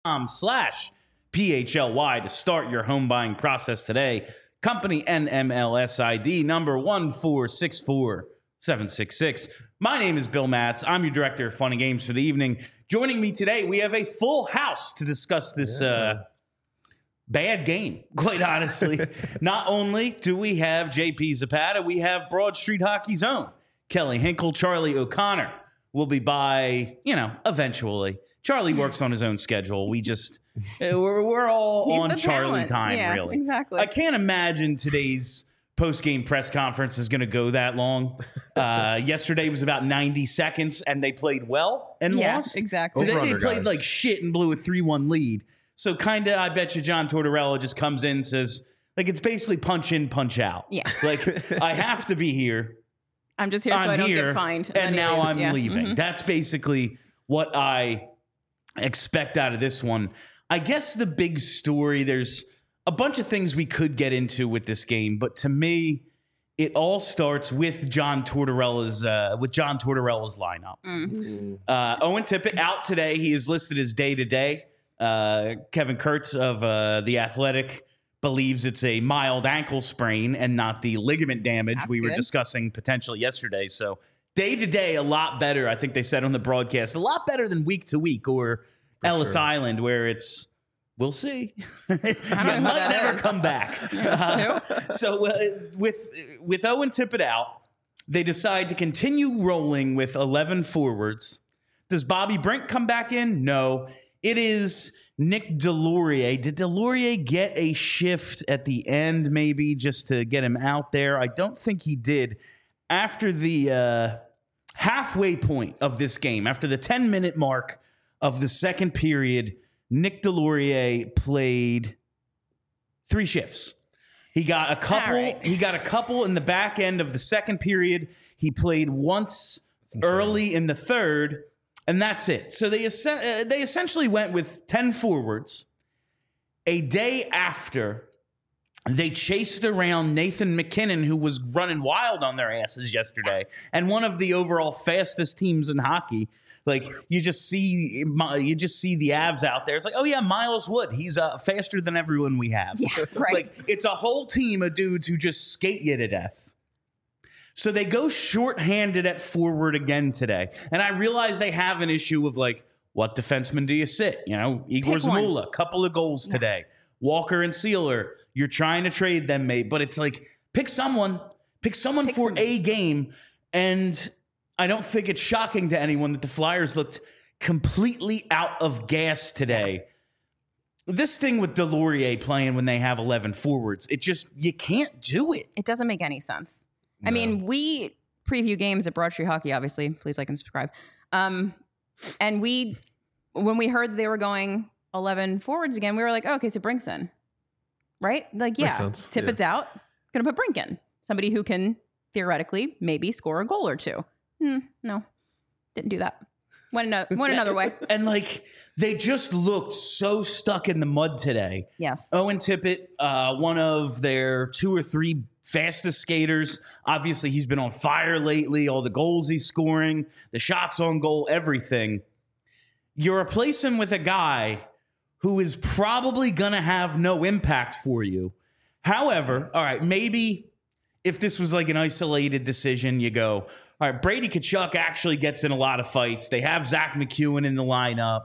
PHLY to start your home buying process today. Company NMLS ID number 1464766. My name is Bill Matz. I'm your director of fun and games for the evening. Joining me today, we have a full house to discuss this bad game, quite honestly. Not only do we have JP Zapata, we have Broad Street Hockey's own Kelly Hinkle. Charlie O'Connor will be by, eventually. Charlie works on his own schedule. We're all on Charlie time, really. Exactly. I can't imagine today's post-game press conference is going to go that long. Yesterday was about 90 seconds, and they played well and lost. Exactly. Today they played like shit and blew a 3-1 lead. So kind of, I bet you John Tortorella just comes in and says, it's basically punch in, punch out. Yeah. I have to be here. I'm just here so I don't get fined. And now I'm leaving. Mm-hmm. That's basically what I expect out of this one. I guess the big story, there's a bunch of things we could get into with this game, but to me, it all starts with John Tortorella's lineup. Mm-hmm. Owen Tippett out today. He is listed as day-to-day. Kevin Kurtz of The Athletic believes it's a mild ankle sprain and not the ligament damage we were discussing potentially yesterday. So day-to-day, a lot better. I think they said on the broadcast, a lot better than week-to-week or Ellis Island, where it's, we'll see. Might never come back. So with Owen Tippett out, they decide to continue rolling with 11 forwards. Does Bobby Brink come back in? No. It is Nick Deslauriers. Did Deslauriers get a shift at the end, maybe, just to get him out there? I don't think he did. After the halfway point of this game, after the 10-minute mark of the second period, Nick Deslauriers played 3 shifts. He got a couple. Right. He got a couple in the back end of the second period. He played once early in the third. And that's it. So they essentially went with 10 forwards. A day after, they chased around Nathan MacKinnon, who was running wild on their asses yesterday, and one of the overall fastest teams in hockey. You just see the Avs out there. It's like, oh yeah, Miles Wood. He's faster than everyone we have. Yeah, right. It's a whole team of dudes who just skate you to death. So they go shorthanded at forward again today. And I realize they have an issue of what defenseman do you sit? Igor Zamula, a couple of goals today. Walker and Sealer, you're trying to trade them, mate. But it's pick someone for a game. And I don't think it's shocking to anyone that the Flyers looked completely out of gas today. This thing with Deslauriers playing when they have 11 forwards, you can't do it. It doesn't make any sense. No. I mean, we preview games at Broad Street Hockey, obviously. Please like and subscribe. And when we heard they were going 11 forwards again, we were like, oh, okay, so Brink's in. Right? Tippett's out. Going to put Brink in. Somebody who can theoretically maybe score a goal or two. No, didn't do that. Went another way. And they just looked so stuck in the mud today. Yes. Owen Tippett, one of their 2 or 3 fastest skaters. Obviously, he's been on fire lately. All the goals he's scoring, the shots on goal, everything. You replace him with a guy who is probably going to have no impact for you. However, all right, maybe if this was an isolated decision, you go, all right, Brady Tkachuk actually gets in a lot of fights. They have Zach McEwen in the lineup.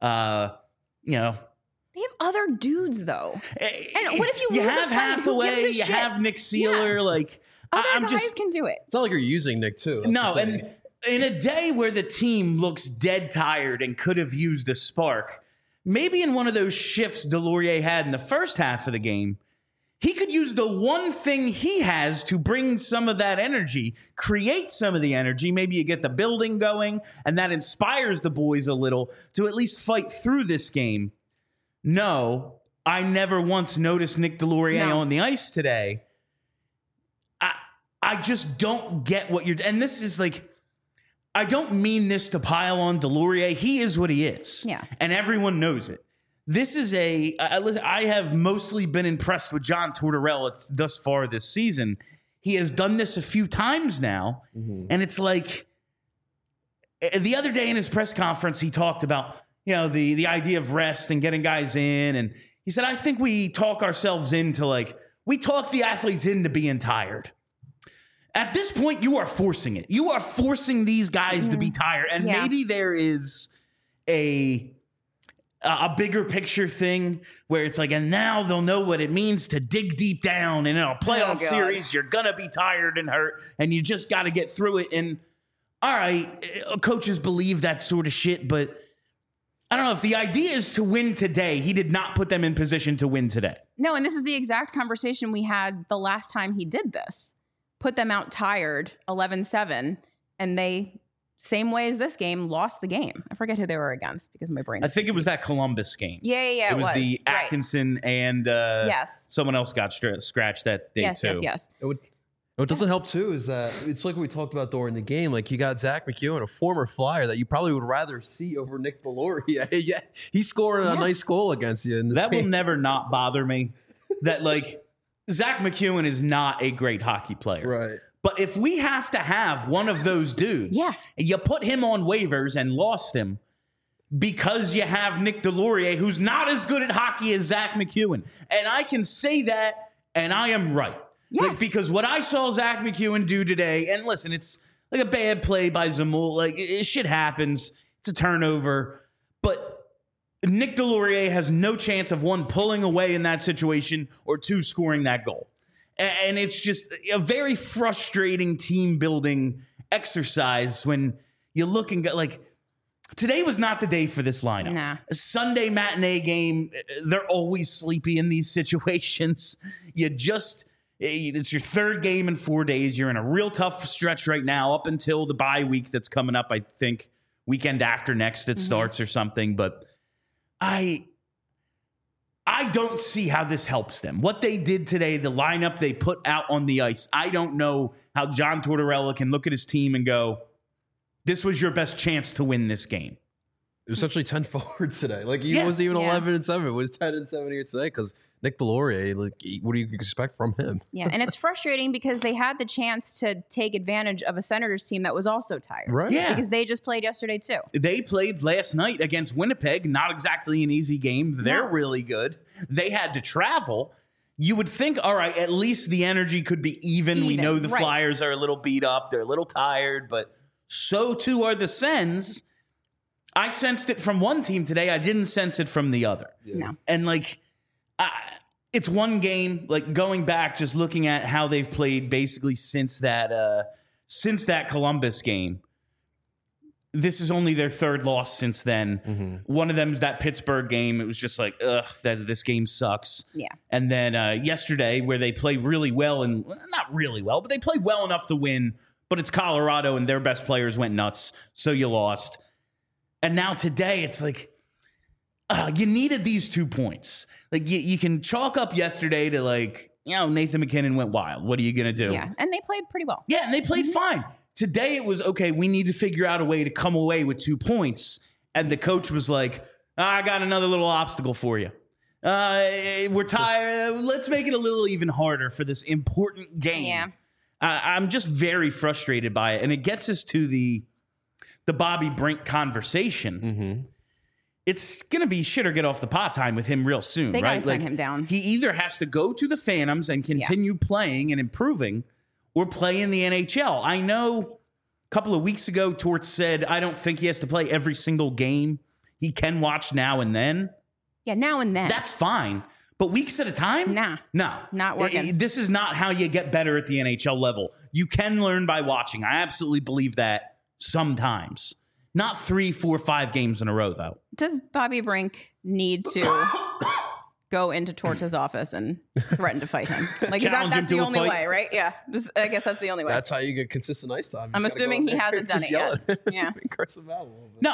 They have other dudes, though. And what if you have Hathaway, you have Nick Sealer, other guys can do it. It's not like you're using Nick too. No, and in a day where the team looks dead tired and could have used a spark, maybe in one of those shifts Deslauriers had in the first half of the game, he could use the one thing he has to bring some of that energy, create some of the energy. Maybe you get the building going, and that inspires the boys a little to at least fight through this game. No, I never once noticed Nick Deslauriers on the ice today. I just don't get what you're... And this is I don't mean this to pile on Deslauriers. He is what he is. Yeah. And everyone knows it. This is I have mostly been impressed with John Tortorella thus far this season. He has done this a few times now. Mm-hmm. And it's the other day in his press conference, he talked about, the idea of rest and getting guys in. And he said, I think we talk ourselves into we talk the athletes into being tired. At this point, you are forcing it. You are forcing these guys to be tired. And maybe there is a bigger picture thing where it's and now they'll know what it means to dig deep down. And in a playoff series, you're going to be tired and hurt, and you just got to get through it. And all right, coaches believe that sort of shit, but I don't know if the idea is to win today. He did not put them in position to win today. No, and this is the exact conversation we had the last time he did this. Put them out tired, 11-7, and they, same way as this game, lost the game. I forget who they were against because my brain. I think it was that Columbus game. Yeah. It was the Atkinson and someone else got scratched that day too. Yes. What doesn't help too is that it's like we talked about during the game. You got Zach McEwen, a former Flyer that you probably would rather see over Nick Deslauriers. Yeah, he scored a nice goal against you. In this game. Will never not bother me. That Zach McEwen is not a great hockey player, right? But if we have to have one of those dudes, you put him on waivers and lost him because you have Nick Deslauriers, who's not as good at hockey as Zach McEwen, and I can say that, and I am right. Yes. Because what I saw Zach McEwen do today, and listen, it's a bad play by Zamul. Shit happens. It's a turnover. But Nick Deslauriers has no chance of, one, pulling away in that situation, or two, scoring that goal. And it's just a very frustrating team-building exercise when you look and go, today was not the day for this lineup. Nah. A Sunday matinee game, they're always sleepy in these situations. It's your third game in 4 days. You're in a real tough stretch right now up until the bye week that's coming up. I think weekend after next it starts or something. But I don't see how this helps them. What they did today, the lineup they put out on the ice, I don't know how John Tortorella can look at his team and go, this was your best chance to win this game. It was essentially 10 forwards today. He wasn't even 11-7. It was 10-7 here today because Nick Deslauriers, what do you expect from him? Yeah, and it's frustrating because they had the chance to take advantage of a Senators team that was also tired. Right. Yeah. Because they just played yesterday too. They played last night against Winnipeg. Not exactly an easy game. They're really good. They had to travel. You would think, all right, at least the energy could be even. We know the Flyers are a little beat up. They're a little tired, but so too are the Sens. I sensed it from one team today. I didn't sense it from the other. Yeah. No. And it's one game, going back, just looking at how they've played basically since that Columbus game. This is only their third loss since then. Mm-hmm. One of them is that Pittsburgh game. It was just this game sucks. Yeah. And then yesterday where they played really well, and not really well, but they played well enough to win, but it's Colorado and their best players went nuts. So you lost. And now today it's you needed these 2 points. You can chalk up yesterday to Nathan McKinnon went wild. What are you going to do? Yeah, and they played pretty well. Yeah, and they played fine. Today it was, okay, we need to figure out a way to come away with 2 points. And the coach was like, I got another little obstacle for you. We're tired. Let's make it a little even harder for this important game. Yeah. I'm just very frustrated by it. And it gets us to the Bobby Brink conversation. Mm-hmm. It's going to be shit or get off the pot time with him real soon, they right? Gotta send him down. He either has to go to the Phantoms and continue playing and improving, or play in the NHL. I know a couple of weeks ago, Torts said, I don't think he has to play every single game. He can watch now and then. Yeah, now and then. That's fine. But weeks at a time? Nah. No. Not working. This is not how you get better at the NHL level. You can learn by watching. I absolutely believe that sometimes. Not 3, 4, 5 games in a row, though. Does Bobby Brink need to go into Torts' office and threaten to fight him? That's the only way, right? Yeah. I guess that's the only way. That's how you get consistent ice time. I'm assuming he hasn't done it yet. Yeah. Curse him out a little bit. No,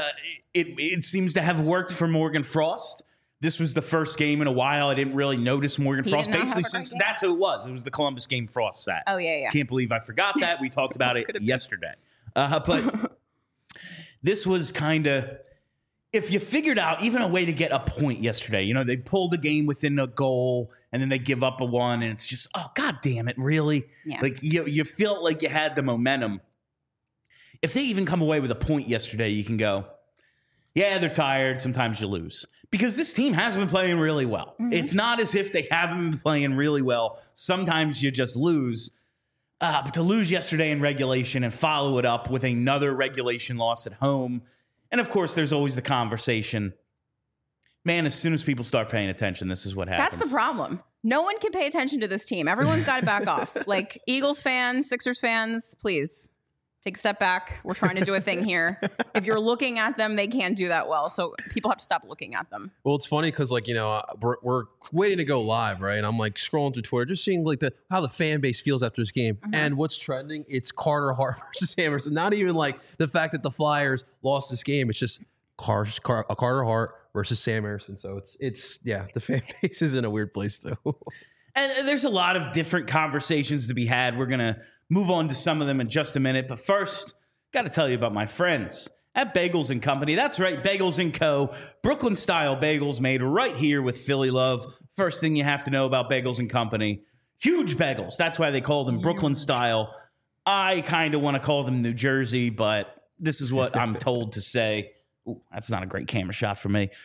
it seems to have worked for Morgan Frost. This was the first game in a while. I didn't really notice Morgan Frost. Basically, since that's who it was. It was the Columbus game Frost sat. Oh, yeah. Can't believe I forgot that. We talked about it yesterday. But this was kind of, if you figured out even a way to get a point yesterday, they pulled the game within a goal and then they give up a one, and it's just, oh, God damn it, really? Yeah. You felt like you had the momentum. If they even come away with a point yesterday, you can go, Yeah, they're tired. Sometimes you lose because this team has been playing really well. Mm-hmm. It's not as if they haven't been playing really well. Sometimes you just lose. But to lose yesterday in regulation and follow it up with another regulation loss at home. And of course, there's always the conversation. Man, as soon as people start paying attention, this is what happens. That's the problem. No one can pay attention to this team. Everyone's got to back off. Like Eagles fans, Sixers fans, please. Take a step back. We're trying to do a thing here. If you're looking at them, they can't do that well. So people have to stop looking at them. Well, it's funny because, like, you know, we're waiting to go live, right? And I'm like scrolling through Twitter, just seeing like how the fan base feels after this game. Mm-hmm. And what's trending? It's Carter Hart versus Emerson. Not even like the fact that the Flyers lost this game. It's just Carter Hart versus Sam Emerson. So it's the fan base is in a weird place too. And there's a lot of different conversations to be had. We're going to move on to some of them in just a minute. But first, got to tell you about my friends at Bagels & Company. That's right, Bagels & Co. Brooklyn-style bagels made right here with Philly love. First thing you have to know about Bagels & Company, huge bagels. That's why they call them Brooklyn-style. I kind of want to call them New Jersey, but this is what I'm told to say. Ooh, that's not a great camera shot for me.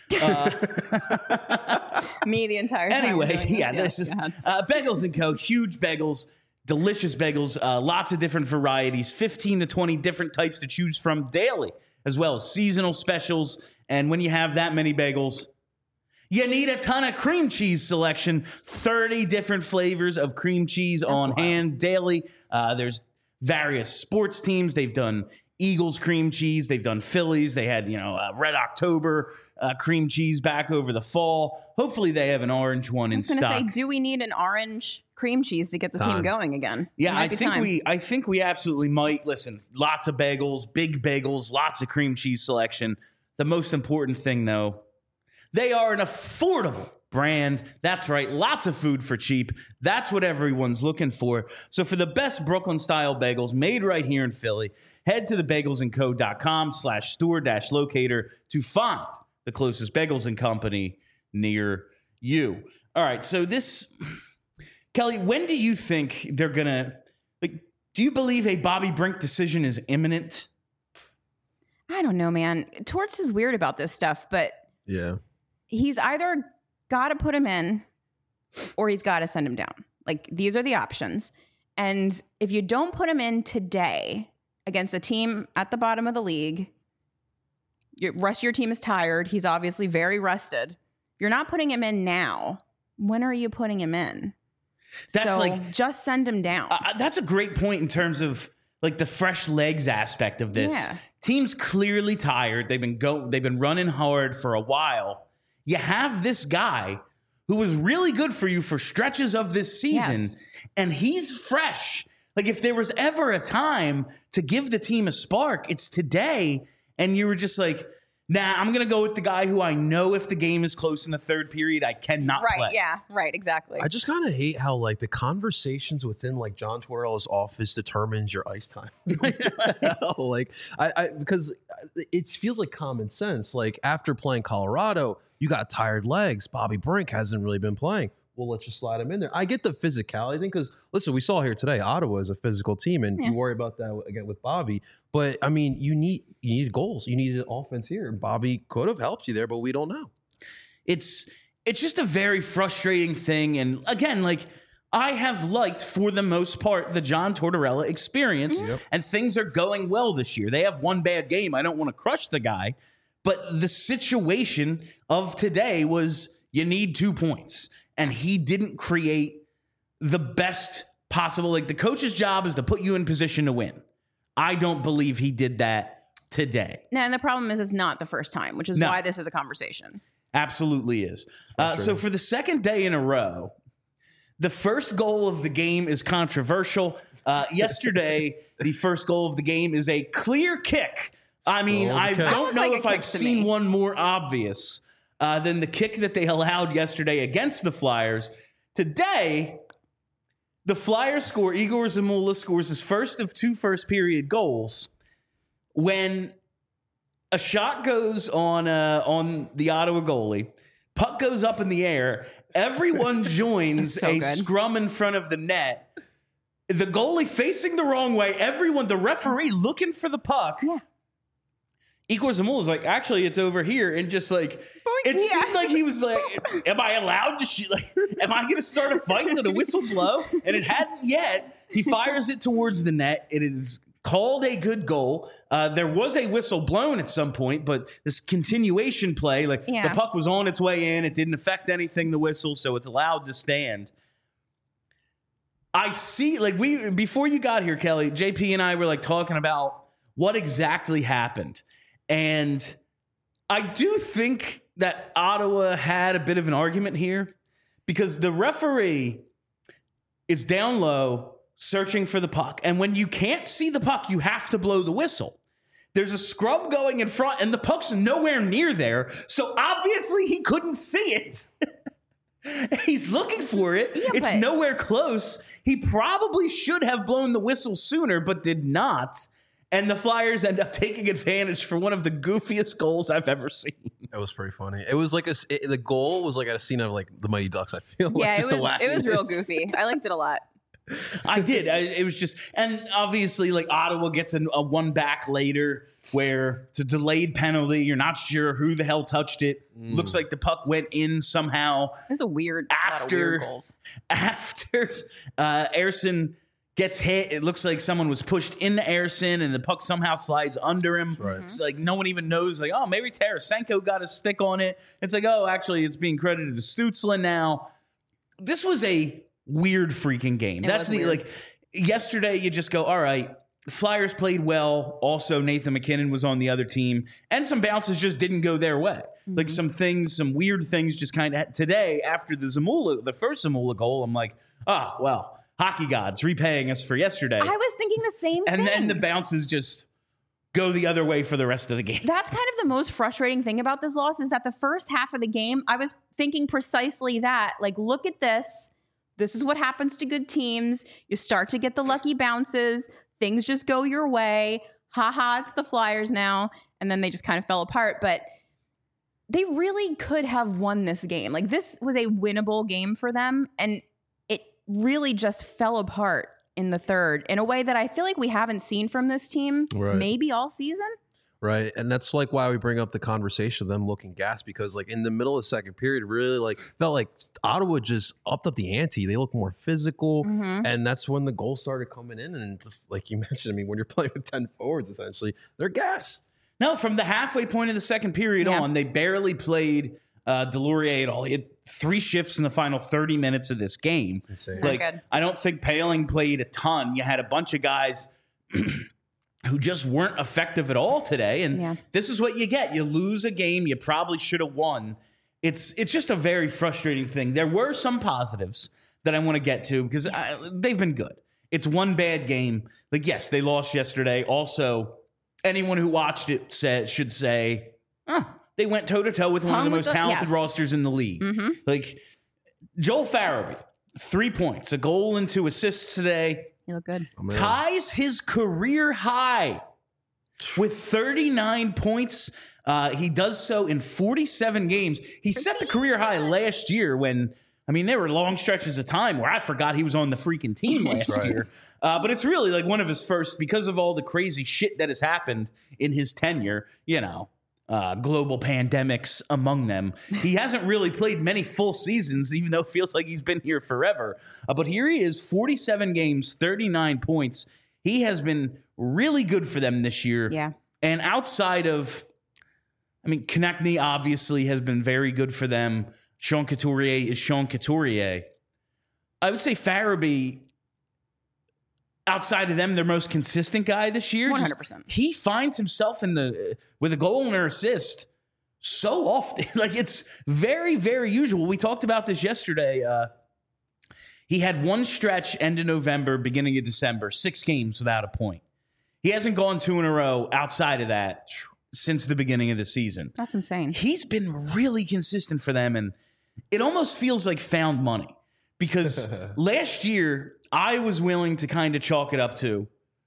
Me the entire time. Anyway, this is Bagels & Co. Huge bagels, delicious bagels, lots of different varieties, 15 to 20 different types to choose from daily, as well as seasonal specials. And when you have that many bagels, you need a ton of cream cheese selection, 30 different flavors of cream cheese on hand daily. There's various sports teams. They've done Eagles cream cheese. They've done Phillies. They had, Red October cream cheese back over the fall. Hopefully they have an orange one in stock. I was going to say, do we need an orange cream cheese to get the team going again? Yeah, I think we absolutely might. Listen, lots of bagels, big bagels, lots of cream cheese selection. The most important thing, though, they are an affordable brand. That's right. Lots of food for cheap. That's what everyone's looking for. So for the best Brooklyn-style bagels made right here in Philly, head to thebagelsandco.com/store-locator to find the closest Bagels & Company near you. All right. So Kelly, when do you think they're going to, do you believe a Bobby Brink decision is imminent? I don't know, man. Torts is weird about this stuff, but yeah, he's either got to put him in or he's got to send him down. Like, these are the options. And if you don't put him in today against a team at the bottom of the league, the rest of your team is tired. He's obviously very rested. You're not putting him in now. When are you putting him in? Just send him down. That's a great point in terms of the fresh legs aspect of this. Yeah. Team's clearly tired. They've been running hard for a while. You have this guy who was really good for you for stretches of this season, and he's fresh. If there was ever a time to give the team a spark, it's today. And you were just like, nah, I'm going to go with the guy who I know if the game is close in the third period, I cannot play. Right, yeah, right, exactly. I just kind of hate how, the conversations within, John Tortorella's office determines your ice time. Because it feels like common sense. After playing Colorado, you got tired legs. Bobby Brink hasn't really been playing. Well, let's just slide him in there. I get the physicality thing because, listen, we saw here today, Ottawa is a physical team, and you worry about that again with Bobby. But, I mean, you needed goals. You needed offense here. Bobby could have helped you there, but we don't know. It's just a very frustrating thing. And, again, I have liked, for the most part, the John Tortorella experience, and things are going well this year. They have one bad game. I don't want to crush the guy. But the situation of today was you need 2 points. And he didn't create the best possible. The coach's job is to put you in position to win. I don't believe he did that today. No, and the problem is it's not the first time, which is why this is a conversation. Absolutely is. So for the second day in a row, the first goal of the game is controversial. Yesterday, the first goal of the game is a clear kick. I mean, I don't know if I've seen one more obvious than the kick that they allowed yesterday against the Flyers. Today, the Flyers score. Igor Zamula scores his first of 2 first-period goals when a shot goes on the Ottawa goalie. Puck goes up in the air. Everyone joins scrum in front of the net. The goalie facing the wrong way. Everyone, the referee looking for the puck. Yeah. Igor Zamula was like, actually, it's over here. And just like, it seemed like he was like, am I allowed to shoot? Like, am I going to start a fight? Did a whistle blow? And it hadn't yet. He fires it towards the net. It is called a good goal. There was a whistle blown at some point, but this continuation play, like the puck was on its way in. It didn't affect anything, the whistle, so it's allowed to stand. I see, like before you got here, Kelly, JP and I were like talking about what exactly happened. And I do think that Ottawa had a bit of an argument here because the referee is down low searching for the puck. And when you can't see the puck, you have to blow the whistle. There's a scrub going in front and the puck's nowhere near there. So obviously he couldn't see it. He's looking for it. Yeah, it's nowhere close. He probably should have blown the whistle sooner, but did not. And the Flyers end up taking advantage for one of the goofiest goals I've ever seen. It was pretty funny. It was like the goal was like at a scene of like the Mighty Ducks. I feel like just it was real goofy. I liked it a lot. I did. It was just, and obviously, like Ottawa gets a one back later where it's a delayed penalty. You're not sure who the hell touched it. Looks like the puck went in somehow. There's a lot of weird goals. After Ersson gets hit, it looks like someone was pushed into Ersson and the puck somehow slides under him. Right. It's like no one even knows, like, oh, maybe Tarasenko got a stick on it. It's like, oh, actually, it's being credited to Stützle now. This was a weird freaking game. That's the weird. Like yesterday you just go, all right, the Flyers played well. Also, Nathan MacKinnon was on the other team and some bounces just didn't go their way. Like some weird things just kind of today after the first Zamula goal, I'm like, oh, well, hockey gods repaying us for yesterday. I was thinking the same thing. And then the bounces just go the other way for the rest of the game. That's kind of the most frustrating thing about this loss is that the first half of the game, I was thinking precisely that. Like, look at this. This is what happens to good teams. You start to get the lucky bounces. Things just go your way. Ha, it's the Flyers now. And then they just kind of fell apart. But they really could have won this game. Like, this was a winnable game for them. And it really just fell apart in the third in a way that I feel like we haven't seen from this team maybe all season. Right. And that's like why we bring up the conversation of them looking gas, because like in the middle of the second period, really like felt like Ottawa just upped up the ante. They looked more physical. And that's when the goals started coming in. And like you mentioned, I mean, when you're playing with 10 forwards, essentially, they're gassed. No, from the halfway point of the second period on, they barely played Delorier at all. He had 3 shifts in the final 30 minutes of this game. Like, I don't think Poehling played a ton. You had a bunch of guys who just weren't effective at all today. And this is what you get. You lose a game you probably should have won. It's just a very frustrating thing. There were some positives that I want to get to because they've been good. It's one bad game. Like, yes, they lost yesterday. Also, anyone who watched it should say, they went toe-to-toe with one of the most talented rosters in the league. Like, Joel Farabee, 3 points, a goal and 2 assists today. You look good. Ties his career high with 39 points. He does so in 47 games. He set the career high last year when, I mean, there were long stretches of time where I forgot he was on the freaking team last year. But it's really like one of his first, because of all the crazy shit that has happened in his tenure, you know, global pandemics among them. He hasn't really played many full seasons, even though it feels like he's been here forever. But here he is, 47 games, 39 points. He has been really good for them this year. Yeah. And outside of, I mean, Konechny obviously has been very good for them. Sean Couturier is Sean Couturier. I would say Farabee, outside of them, their most consistent guy this year. 100%. He finds himself with a goal and an assist so often. Like, it's very, very usual. We talked about this yesterday. He had one stretch end of November, beginning of December, 6 games without a point. He hasn't gone 2 in a row outside of that since the beginning of the season. That's insane. He's been really consistent for them, and it almost feels like found money. Because last year, I was willing to kind of chalk it up to,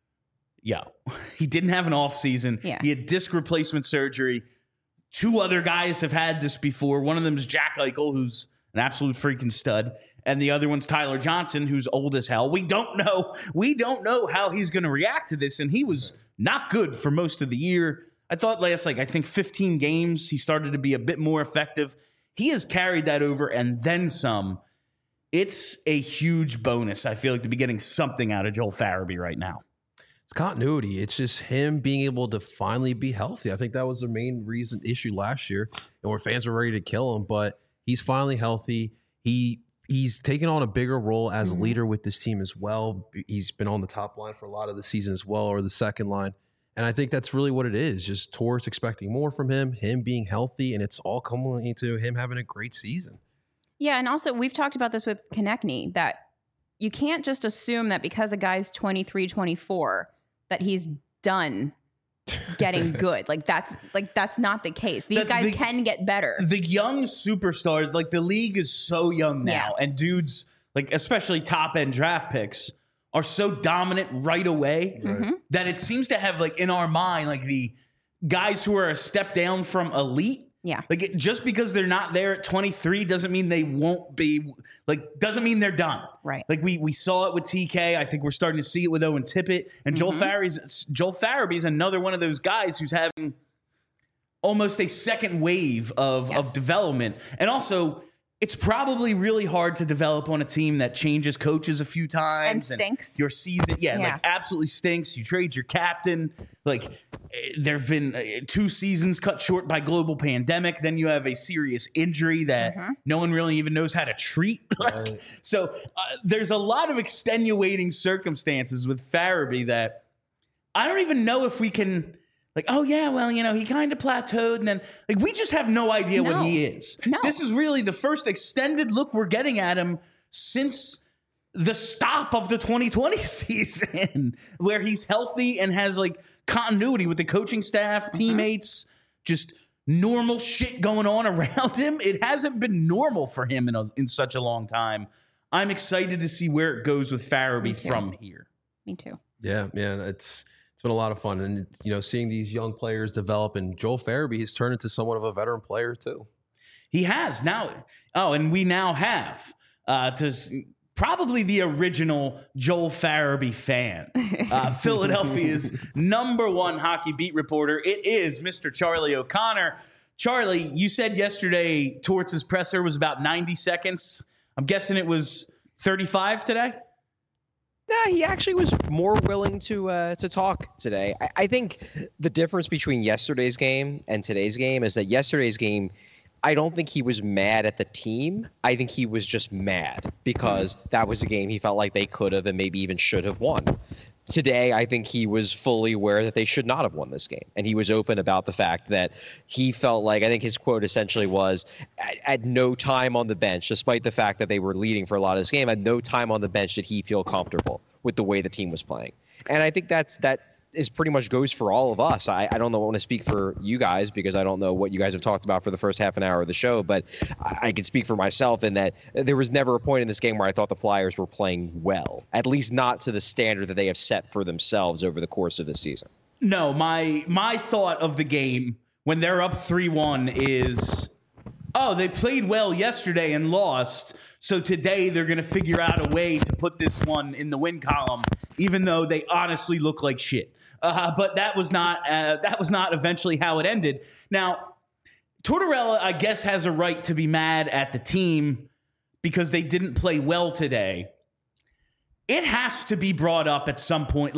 he didn't have an off season. Yeah. He had disc replacement surgery. 2 other guys have had this before. One of them is Jack Eichel, who's an absolute freaking stud. And the other one's Tyler Johnson, who's old as hell. We don't know how he's going to react to this. And he was not good for most of the year. I thought last, I think 15 games, he started to be a bit more effective. He has carried that over and then some. It's a huge bonus, I feel like, to be getting something out of Joel Farabee right now. It's continuity. It's just him being able to finally be healthy. I think that was the main issue last year, and where fans were ready to kill him. But he's finally healthy. He's taken on a bigger role as a leader with this team as well. He's been on the top line for a lot of the season as well, or the second line. And I think that's really what it is. Just Torts expecting more from him being healthy, and it's all coming into him having a great season. Yeah, and also we've talked about this with Konechny, that you can't just assume that because a guy's 23, 24, that he's done getting good. That's not the case. These guys can get better. The young superstars, the league is so young now, and dudes, especially top end draft picks, are so dominant right away that it seems to have, in our mind, the guys who are a step down from elite. Yeah. Just because they're not there at 23 doesn't mean they won't be, doesn't mean they're done. Right. We saw it with TK. I think we're starting to see it with Owen Tippett. And Joel Farabee is another one of those guys who's having almost a second wave of development. And also, it's probably really hard to develop on a team that changes coaches a few times. And stinks. Your season, absolutely stinks. You trade your captain. There have been 2 seasons cut short by global pandemic. Then you have a serious injury that no one really even knows how to treat. So there's a lot of extenuating circumstances with Farabee that I don't even know if we can... he kind of plateaued, and then we just have no idea what he is. No. This is really the first extended look we're getting at him since the stop of the 2020 season, where he's healthy and has continuity with the coaching staff, teammates, just normal shit going on around him. It hasn't been normal for him in such a long time. I'm excited to see where it goes with Farabee from here. Me too. Yeah, man, it's been a lot of fun, and seeing these young players develop, and Joel Farabee has turned into somewhat of a veteran player too. He has now. Oh, and we now have probably the original Joel Farabee fan, Philadelphia's #1 hockey beat reporter. It is Mr. Charlie O'Connor. Charlie, you said yesterday Torts' presser was about 90 seconds. I'm guessing it was 35 today. Nah, he actually was more willing to talk today. I think the difference between yesterday's game and today's game is that yesterday's game, I don't think he was mad at the team. I think he was just mad because that was a game he felt like they could have and maybe even should have won. Today, I think he was fully aware that they should not have won this game. And he was open about the fact that he felt like, I think his quote essentially was, at no time on the bench, despite the fact that they were leading for a lot of this game, at no time on the bench did he feel comfortable with the way the team was playing. And I think that is pretty much goes for all of us. I don't know, I want to speak for you guys because I don't know what you guys have talked about for the first half an hour of the show, but I can speak for myself in that there was never a point in this game where I thought the Flyers were playing well, at least not to the standard that they have set for themselves over the course of the season. No, my thought of the game when they're up 3-1 is, oh, they played well yesterday and lost, so today they're going to figure out a way to put this one in the win column, even though they honestly look like shit. But that was not eventually how it ended. Now, Tortorella, I guess, has a right to be mad at the team because they didn't play well today. It has to be brought up at some point.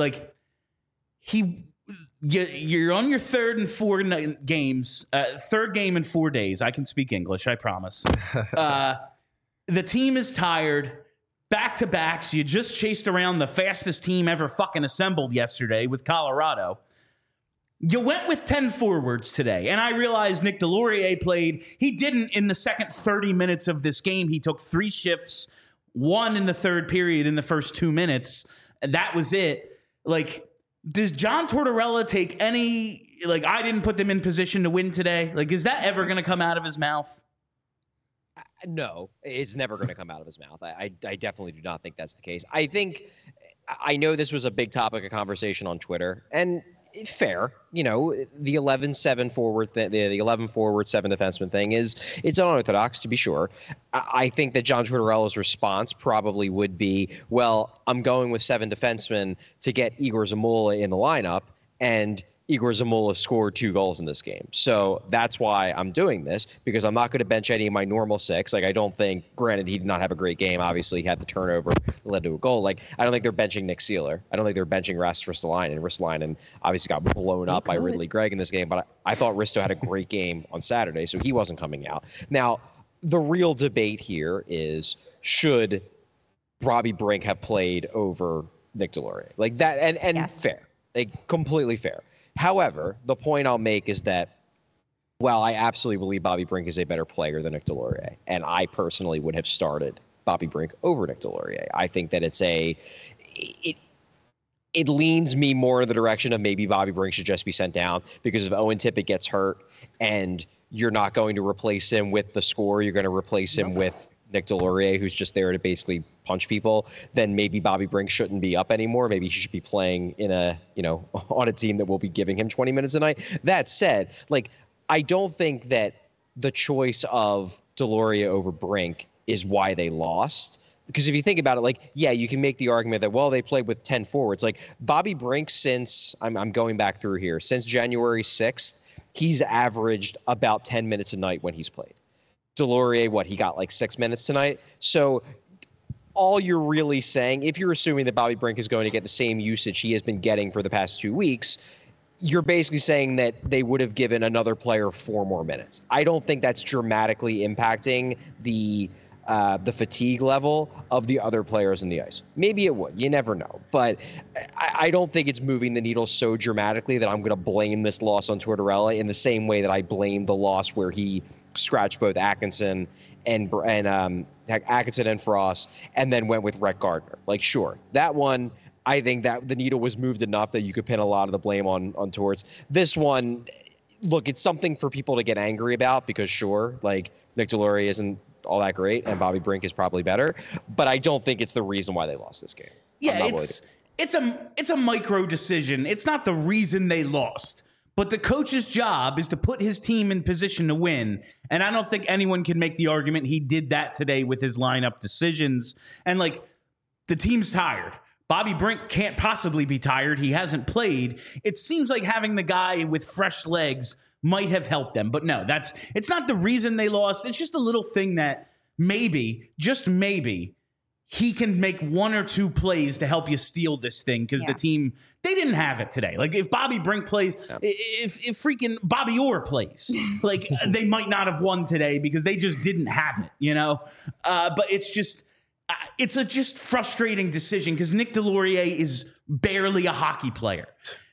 You're on your third game in 4 days. I can speak English, I promise. The team is tired. Back-to-backs. You just chased around the fastest team ever fucking assembled yesterday with Colorado. You went with 10 forwards today, and I realize Nick Delorier played. He didn't in the second 30 minutes of this game. He took 3 shifts, 1 in the third period in the first 2 minutes, and that was it. Does John Tortorella take any, I didn't put them in position to win today? Is that ever going to come out of his mouth? No, it's never going to come out of his mouth. I definitely do not think that's the case. I know this was a big topic of conversation on Twitter, and fair, the 11-7 forward, the 11 forward, 7 defenseman thing it's unorthodox to be sure. I think that John Tortorella's response probably would be, well, I'm going with 7 defensemen to get Igor Zamula in the lineup, and Igor Zamula scored 2 goals in this game. So that's why I'm doing this, because I'm not going to bench any of my normal 6. Like, I don't think, granted, he did not have a great game. Obviously, he had the turnover that led to a goal. Like, I don't think they're benching Nick Seeler. I don't think they're benching Ristolainen. Ristolainen obviously got blown up by Ridley Gregg in this game, but I thought Risto had a great game on Saturday, so he wasn't coming out. Now, the real debate here is, should Robbie Brink have played over Nick Deslauriers? Like that, and yes. Fair. Like, completely fair. However, the point I'll make is that, well, I absolutely believe Bobby Brink is a better player than Nick Deslauriers, and I personally would have started Bobby Brink over Nick Deslauriers. I think that it leans me more in the direction of maybe Bobby Brink should just be sent down, because if Owen Tippett gets hurt and you're not going to replace him with the scorer, you're going to replace him with Nick Deslauriers, who's just there to basically punch people, then maybe Bobby Brink shouldn't be up anymore. Maybe he should be playing in on a team that will be giving him 20 minutes a night. That said, like, I don't think that the choice of Deslauriers over Brink is why they lost. Because if you think about it, like, yeah, you can make the argument that, well, they played with 10 forwards. Like, Bobby Brink, since I'm going back through here, since January 6th, he's averaged about 10 minutes a night when he's played. Deslauriers, he got like 6 minutes tonight. So all you're really saying, if you're assuming that Bobby Brink is going to get the same usage he has been getting for the past 2 weeks, you're basically saying that they would have given another player 4 more minutes. I don't think that's dramatically impacting the fatigue level of the other players in the ice. Maybe it would. You never know. But I don't think it's moving the needle so dramatically that I'm going to blame this loss on Tortorella in the same way that I blame the loss where he scratched both Atkinson and Atkinson and Frost, and then went with Rhett Gardner. Like, sure, that one, I think that the needle was moved enough that you could pin a lot of the blame on Torts. This one, look, it's something for people to get angry about, because sure, like, Nick Deslauriers isn't all that great, and Bobby Brink is probably better, but I don't think it's the reason why they lost this game. Yeah, it's a micro decision. It's not the reason they lost. But the coach's job is to put his team in position to win. And I don't think anyone can make the argument he did that today with his lineup decisions. And, like, the team's tired. Bobby Brink can't possibly be tired. He hasn't played. It seems like having the guy with fresh legs might have helped them. But no, it's not the reason they lost. It's just a little thing that maybe, just maybe, he can make 1 or 2 plays to help you steal this thing, because the team, they didn't have it today. Like, if Bobby Brink plays, if freaking Bobby Orr plays, like, they might not have won today because they just didn't have it, you know? But it's just, it's a just frustrating decision, because Nick Deslauriers is barely a hockey player.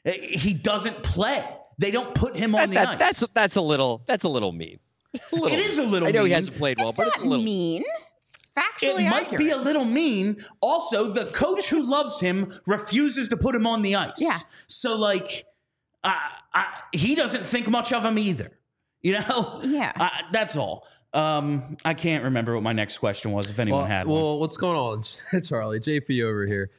He doesn't play. They don't put him on the ice. That's a little mean. It is a little mean. I know he hasn't played well, but it's a little mean. Factually it might be a little mean. Also, the coach who loves him refuses to put him on the ice. Yeah. So, like, he doesn't think much of him either. You know? Yeah. That's all. I can't remember what my next question was, if anyone had one. Well, what's going on, Charlie? JP over here.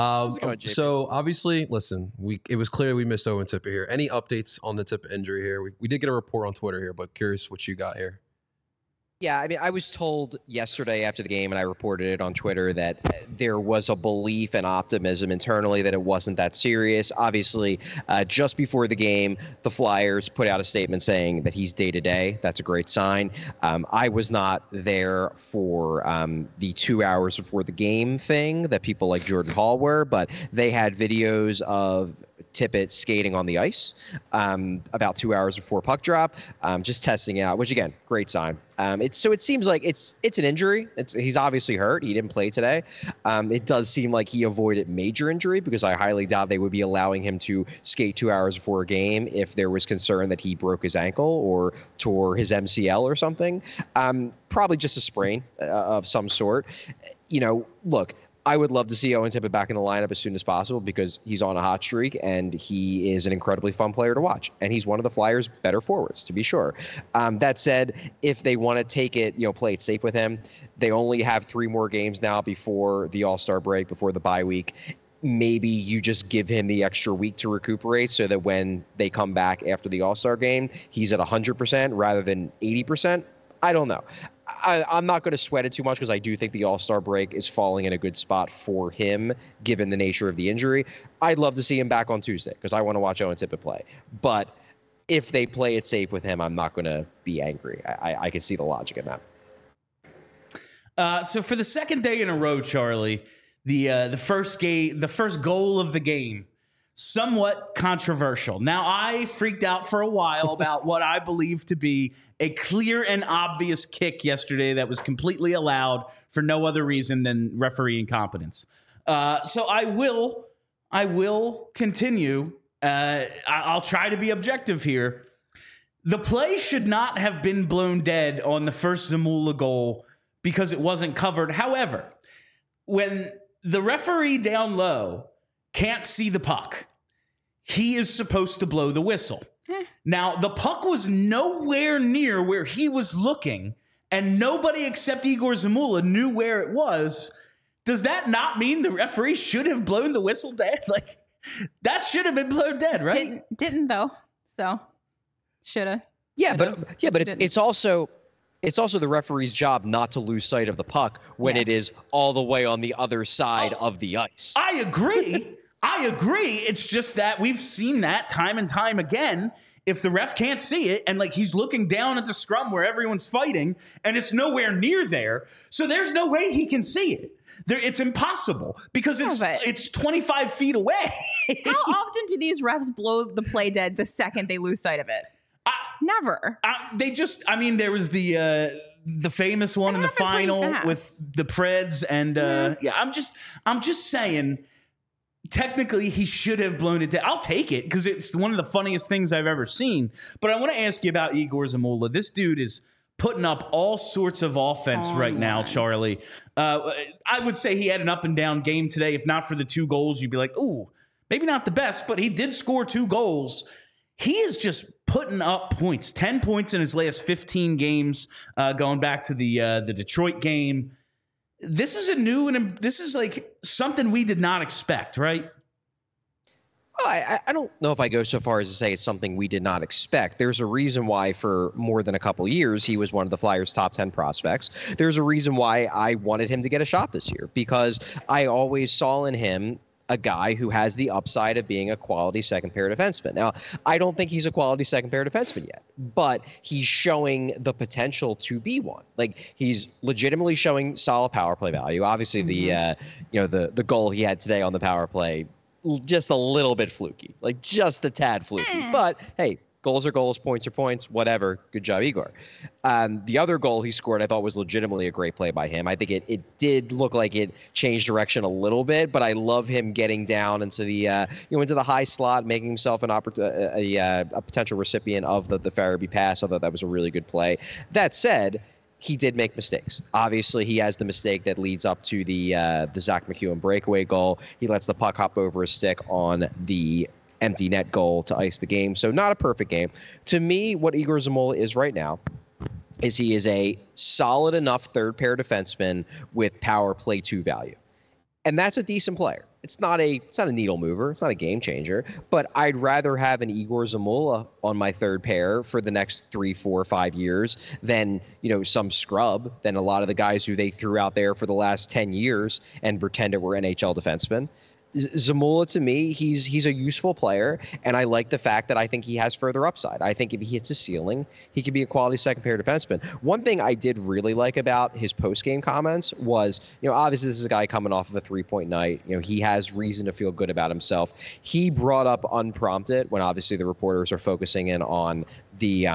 So obviously, listen, it was clear we missed Owen Tippett here. Any updates on the Tippett injury here? We did get a report on Twitter here, but curious what you got here. Yeah, I mean, I was told yesterday after the game, and I reported it on Twitter, that there was a belief and optimism internally that it wasn't that serious. Obviously, just before the game, the Flyers put out a statement saying that he's day-to-day. That's a great sign. I was not there for the 2 hours before the game thing that people like Jordan Hall were, but they had videos of Tippett skating on the ice about 2 hours before puck drop, just testing it out, which, again, great sign. It seems like it's an injury. He's obviously hurt. He didn't play today. It does seem like he avoided major injury, because I highly doubt they would be allowing him to skate 2 hours before a game if there was concern that he broke his ankle or tore his MCL or something. Probably just a sprain of some sort. You know, look, I would love to see Owen Tippett back in the lineup as soon as possible, because he's on a hot streak and he is an incredibly fun player to watch. And he's one of the Flyers' better forwards, to be sure. That said, if they want to take it, play it safe with him, they only have 3 more games now before the All-Star break, before the bye week. Maybe you just give him the extra week to recuperate, so that when they come back after the All-Star game, he's at 100% rather than 80%. I don't know. I'm not going to sweat it too much because I do think the All-Star break is falling in a good spot for him, given the nature of the injury. I'd love to see him back on Tuesday because I want to watch Owen Tippett play. But if they play it safe with him, I'm not going to be angry. I can see the logic in that. So for the second day in a row, Charlie, the first goal of the game, somewhat controversial. Now, I freaked out for a while about what I believe to be a clear and obvious kick yesterday that was completely allowed for no other reason than referee incompetence. So I will continue. I'll try to be objective here. The play should not have been blown dead on the first Zamula goal because it wasn't covered. However, when the referee down low can't see the puck, he is supposed to blow the whistle. Now, the puck was nowhere near where he was looking, and nobody except Igor Zamula knew where it was. Does that not mean the referee should have blown the whistle dead? Like, that should have been blown dead, right? Didn't though. So, shoulda. Yeah, but it's also the referee's job not to lose sight of the puck when it is all the way on the other side of the ice. I agree. It's just that we've seen that time and time again. If the ref can't see it and like he's looking down at the scrum where everyone's fighting and it's nowhere near there, so there's no way he can see it. It's impossible because it's 25 feet away. How often do these refs blow the play dead the second they lose sight of it? Never. There was the famous one in the final with the Preds, and I'm just saying. Technically, he should have blown it down. I'll take it because it's one of the funniest things I've ever seen. But I want to ask you about Igor Zamula. This dude is putting up all sorts of offense now, Charlie. I would say he had an up and down game today. If not for the 2 goals, you'd be like, ooh, maybe not the best, but he did score 2 goals. He is just putting up points, 10 points in his last 15 games, going back to the Detroit game. This is this is like something we did not expect, right? Well, I don't know if I go so far as to say it's something we did not expect. There's a reason why for more than a couple years he was one of the Flyers' top 10 prospects. There's a reason why I wanted him to get a shot this year because I always saw in him a guy who has the upside of being a quality second-pair defenseman. Now, I don't think he's a quality second-pair defenseman yet, but he's showing the potential to be one. Like, he's legitimately showing solid power play value. Obviously, the goal he had today on the power play, just a little bit fluky, like just a tad fluky. But hey, goals are goals, points are points, whatever. Good job, Igor. The other goal he scored, I thought was legitimately a great play by him. I think it did look like it changed direction a little bit, but I love him getting down into the into the high slot, making himself a potential recipient of the Farabee pass. I thought that was a really good play. That said, he did make mistakes. Obviously, he has the mistake that leads up to the Zach McEwen breakaway goal. He lets the puck hop over his stick on the empty net goal to ice the game. So not a perfect game. To me, what Igor Zamula is right now is he is a solid enough third pair defenseman with power play 2 value. And that's a decent player. It's not a needle mover. It's not a game changer, but I'd rather have an Igor Zamula on my third pair for the next 3, 4, 5 years than, some scrub, than a lot of the guys who they threw out there for the last 10 years and pretended were NHL defensemen. Zamula, to me, he's a useful player, and I like the fact that I think he has further upside. I think if he hits a ceiling, he could be a quality second-pair defenseman. One thing I did really like about his post-game comments was, obviously this is a guy coming off of a 3-point night. He has reason to feel good about himself. He brought up unprompted when obviously the reporters are focusing in on the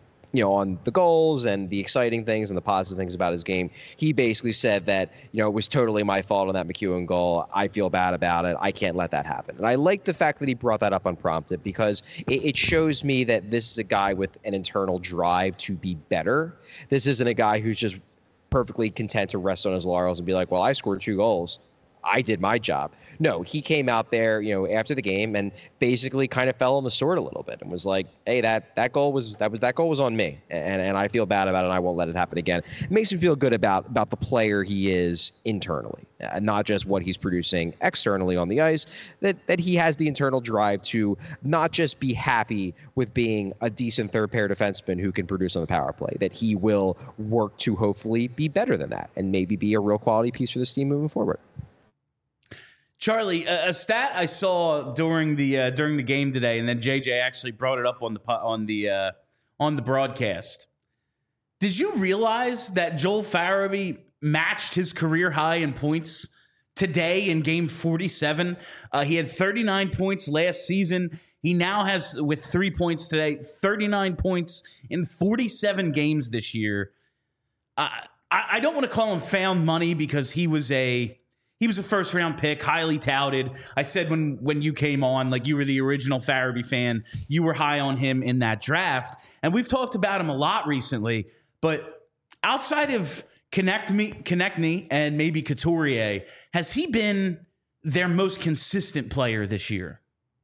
on the goals and the exciting things and the positive things about his game. He basically said that, it was totally my fault on that McEwen goal. I feel bad about it. I can't let that happen. And I like the fact that he brought that up unprompted because it shows me that this is a guy with an internal drive to be better. This isn't a guy who's just perfectly content to rest on his laurels and be like, well, I scored 2 goals. I did my job. No, he came out there, after the game and basically kind of fell on the sword a little bit and was like, hey, that goal was on me. And I feel bad about it and I won't let it happen again. It makes me feel good about the player he is internally, not just what he's producing externally on the ice, that he has the internal drive to not just be happy with being a decent third pair defenseman who can produce on the power play, that he will work to hopefully be better than that and maybe be a real quality piece for this team moving forward. Charlie, a stat I saw during the game today, and then JJ actually brought it up on the broadcast. Did you realize that Joel Farabee matched his career high in points today in game 47? He had 39 points last season. He now has, with 3 points today, 39 points in 47 games this year. I don't want to call him found money because he was a first round pick, highly touted. I said when you came on, like, you were the original Farabee fan, you were high on him in that draft. And we've talked about him a lot recently, but outside of Konechny and maybe Couturier, has he been their most consistent player this year?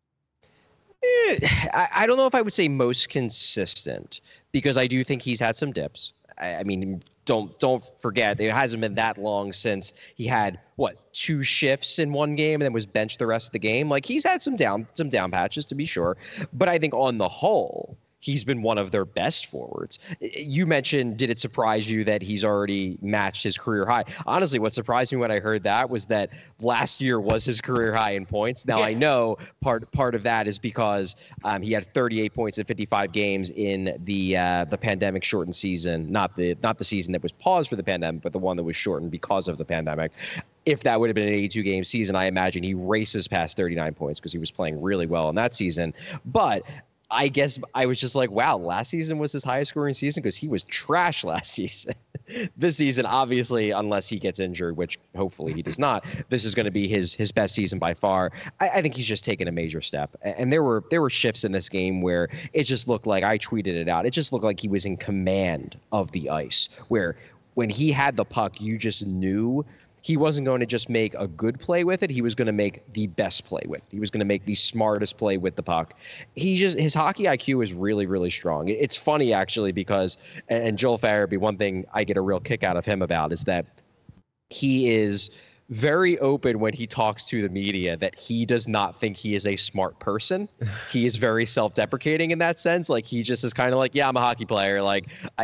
I don't know if I would say most consistent, because I do think he's had some dips. I mean, don't forget, it hasn't been that long since he had 2 shifts in one game and then was benched the rest of the game. Like, he's had some down patches, to be sure, but I think on the whole, he's been one of their best forwards. You mentioned, did it surprise you that he's already matched his career high? Honestly, what surprised me when I heard that was that last year was his career high in points. Now, I know part of that is because he had 38 points in 55 games in the pandemic shortened season, not the season that was paused for the pandemic, but the one that was shortened because of the pandemic. If that would have been an 82-game season, I imagine he races past 39 points because he was playing really well in that season. But I guess I was just like, wow, last season was his highest scoring season because he was trash last season. This season, obviously, unless he gets injured, which hopefully he does not, this is going to be his best season by far. I think he's just taken a major step. And there were shifts in this game where it just looked like, I tweeted it out, it just looked like he was in command of the ice, where when he had the puck, you just knew he wasn't going to just make a good play with it. He was going to make the best play with it. He was going to make the smartest play with the puck. His hockey IQ is really, really strong. It's funny, actually, because, and Joel Farabee, one thing I get a real kick out of him about is that he is very open when he talks to the media that he does not think he is a smart person. He is very self-deprecating in that sense. Like, he just is kind of like, yeah, I'm a hockey player. Like,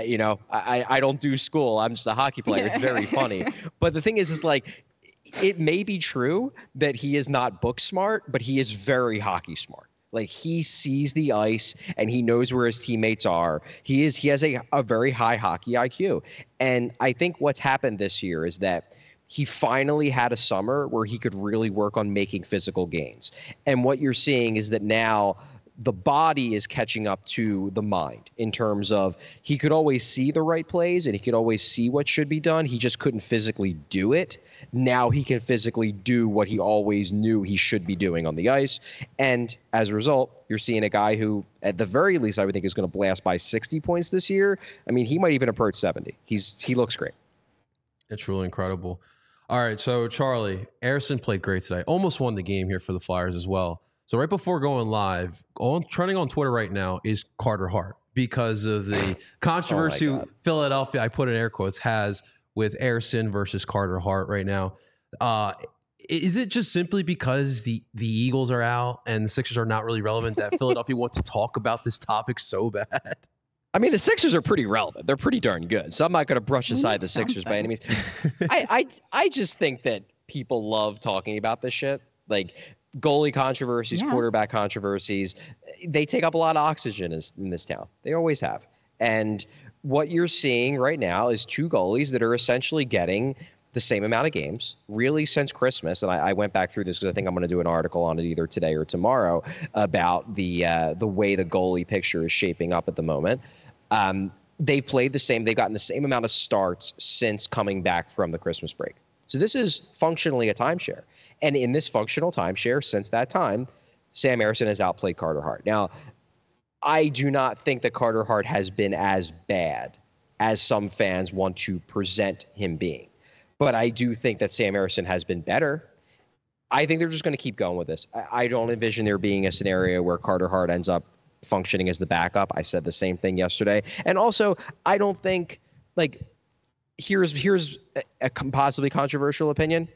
I don't do school. I'm just a hockey player. It's very funny. But the thing is like, it may be true that he is not book smart, but he is very hockey smart. Like, he sees the ice and he knows where his teammates are. He has a very high hockey IQ. And I think what's happened this year is that he finally had a summer where he could really work on making physical gains. And what you're seeing is that now the body is catching up to the mind in terms of he could always see the right plays and he could always see what should be done. He just couldn't physically do it. Now he can physically do what he always knew he should be doing on the ice. And as a result, you're seeing a guy who, at the very least, I would think is going to blast by 60 points this year. I mean, he might even approach 70. He looks great. It's really incredible. All right, so Charlie, Ersson played great today. Almost won the game here for the Flyers as well. So right before going live, trending on Twitter right now is Carter Hart because of the controversy Philadelphia, I put in air quotes, has with Ersson versus Carter Hart right now. Is it just simply because the Eagles are out and the Sixers are not really relevant that Philadelphia wants to talk about this topic so bad? I mean, the Sixers are pretty relevant. They're pretty darn good. So I'm not going to brush aside the Sixers by any means. I just think that people love talking about this shit. Like, goalie controversies, quarterback controversies, they take up a lot of oxygen in this town. They always have. And what you're seeing right now is 2 goalies that are essentially getting the same amount of games, really, since Christmas. And I went back through this because I think I'm going to do an article on it either today or tomorrow about the way the goalie picture is shaping up at the moment. They've played the same. They've gotten the same amount of starts since coming back from the Christmas break. So this is functionally a timeshare. And in this functional timeshare, since that time, Sam Ersson has outplayed Carter Hart. Now, I do not think that Carter Hart has been as bad as some fans want to present him being. But I do think that Sam Ersson has been better. I think they're just going to keep going with this. I don't envision there being a scenario where Carter Hart ends up functioning as the backup. I said the same thing yesterday. And also, I don't think, like, here's a possibly controversial opinion.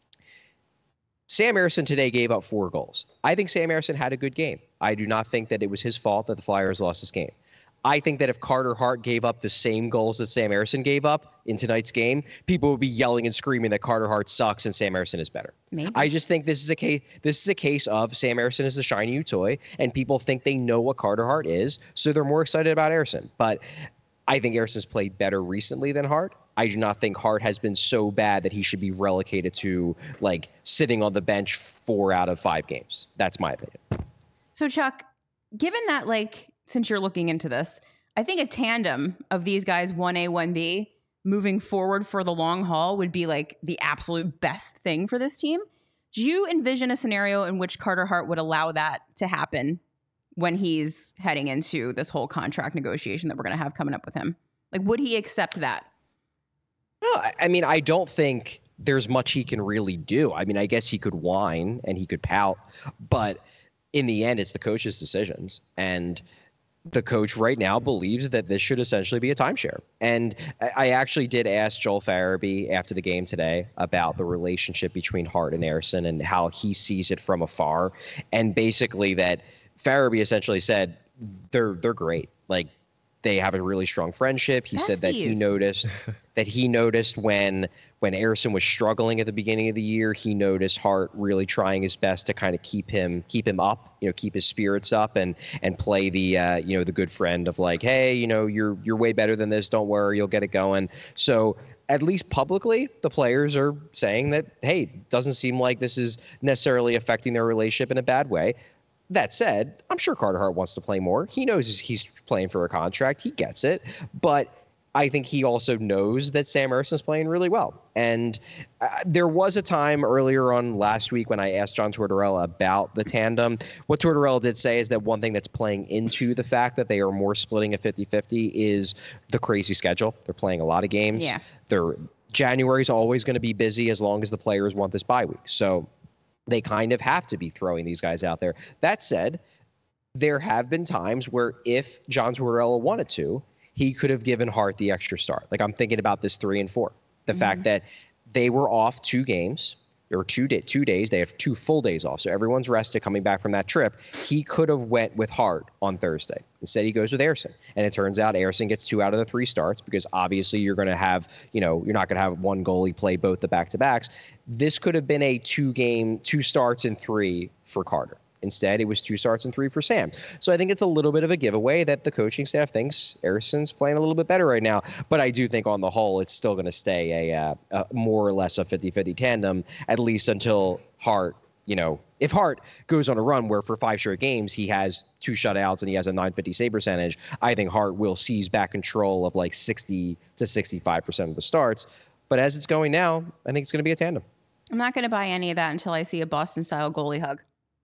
Sam Ersson today gave up 4 goals. I think Sam Ersson had a good game. I do not think that it was his fault that the Flyers lost this game. I think that if Carter Hart gave up the same goals that Sam Ersson gave up in tonight's game, people would be yelling and screaming that Carter Hart sucks and Sam Ersson is better. Maybe. I just think this is a case of Sam Ersson is the shiny new toy, and people think they know what Carter Hart is, so they're more excited about Ersson. But I think Ersson's played better recently than Hart. I do not think Hart has been so bad that he should be relegated to, like, sitting on the bench 4 out of 5 games. That's my opinion. So, Chuck, given that, like, since you're looking into this, I think a tandem of these guys, 1A, 1B, moving forward for the long haul would be, like, the absolute best thing for this team. Do you envision a scenario in which Carter Hart would allow that to happen when he's heading into this whole contract negotiation that we're going to have coming up with him? Like, would he accept that? No, I mean, I don't think there's much he can really do. I mean, I guess he could whine and he could pout, but in the end, it's the coach's decisions. And the coach right now believes that this should essentially be a timeshare. And I actually did ask Joel Farabee after the game today about the relationship between Hart and Ersson and how he sees it from afar. And basically that Farabee essentially said they're great. Like, they have a really strong friendship. He said that he noticed when Ersson was struggling at the beginning of the year, he noticed Hart really trying his best to kind of keep him up, keep his spirits up and play the the good friend of, like, hey, you're way better than this. Don't worry, you'll get it going. So at least publicly, the players are saying that, hey, it doesn't seem like this is necessarily affecting their relationship in a bad way. That said, I'm sure Carter Hart wants to play more. He knows he's playing for a contract. He gets it. But I think he also knows that Sam Ersson's playing really well. And there was a time earlier on last week when I asked John Tortorella about the tandem. What Tortorella did say is that one thing that's playing into the fact that they are more splitting a 50-50 is the crazy schedule. They're playing a lot of games. Yeah. January is always going to be busy as long as the players want this bye week. So they kind of have to be throwing these guys out there. That said, there have been times where if John Tortorella wanted to, he could have given Hart the extra start. Like, I'm thinking about this 3 and 4. The fact that they were off 2 games or 2 days. They have 2 full days off. So everyone's rested coming back from that trip. He could have went with Hart on Thursday. Instead, he goes with Ersson. And it turns out Ersson gets 2 out of the 3 starts because obviously you're going to have, you're not going to have one goalie play both the back-to-backs. This could have been a 2 starts and 3 for Carter. Instead, it was 2 starts and 3 for Sam. So I think it's a little bit of a giveaway that the coaching staff thinks Ersson's playing a little bit better right now. But I do think on the whole, it's still going to stay a more or less a 50-50 tandem, at least until Hart, if Hart goes on a run where for 5 straight games he has 2 shutouts and he has a .950 save percentage, I think Hart will seize back control of like 60 to 65% of the starts. But as it's going now, I think it's going to be a tandem. I'm not going to buy any of that until I see a Boston-style goalie hug.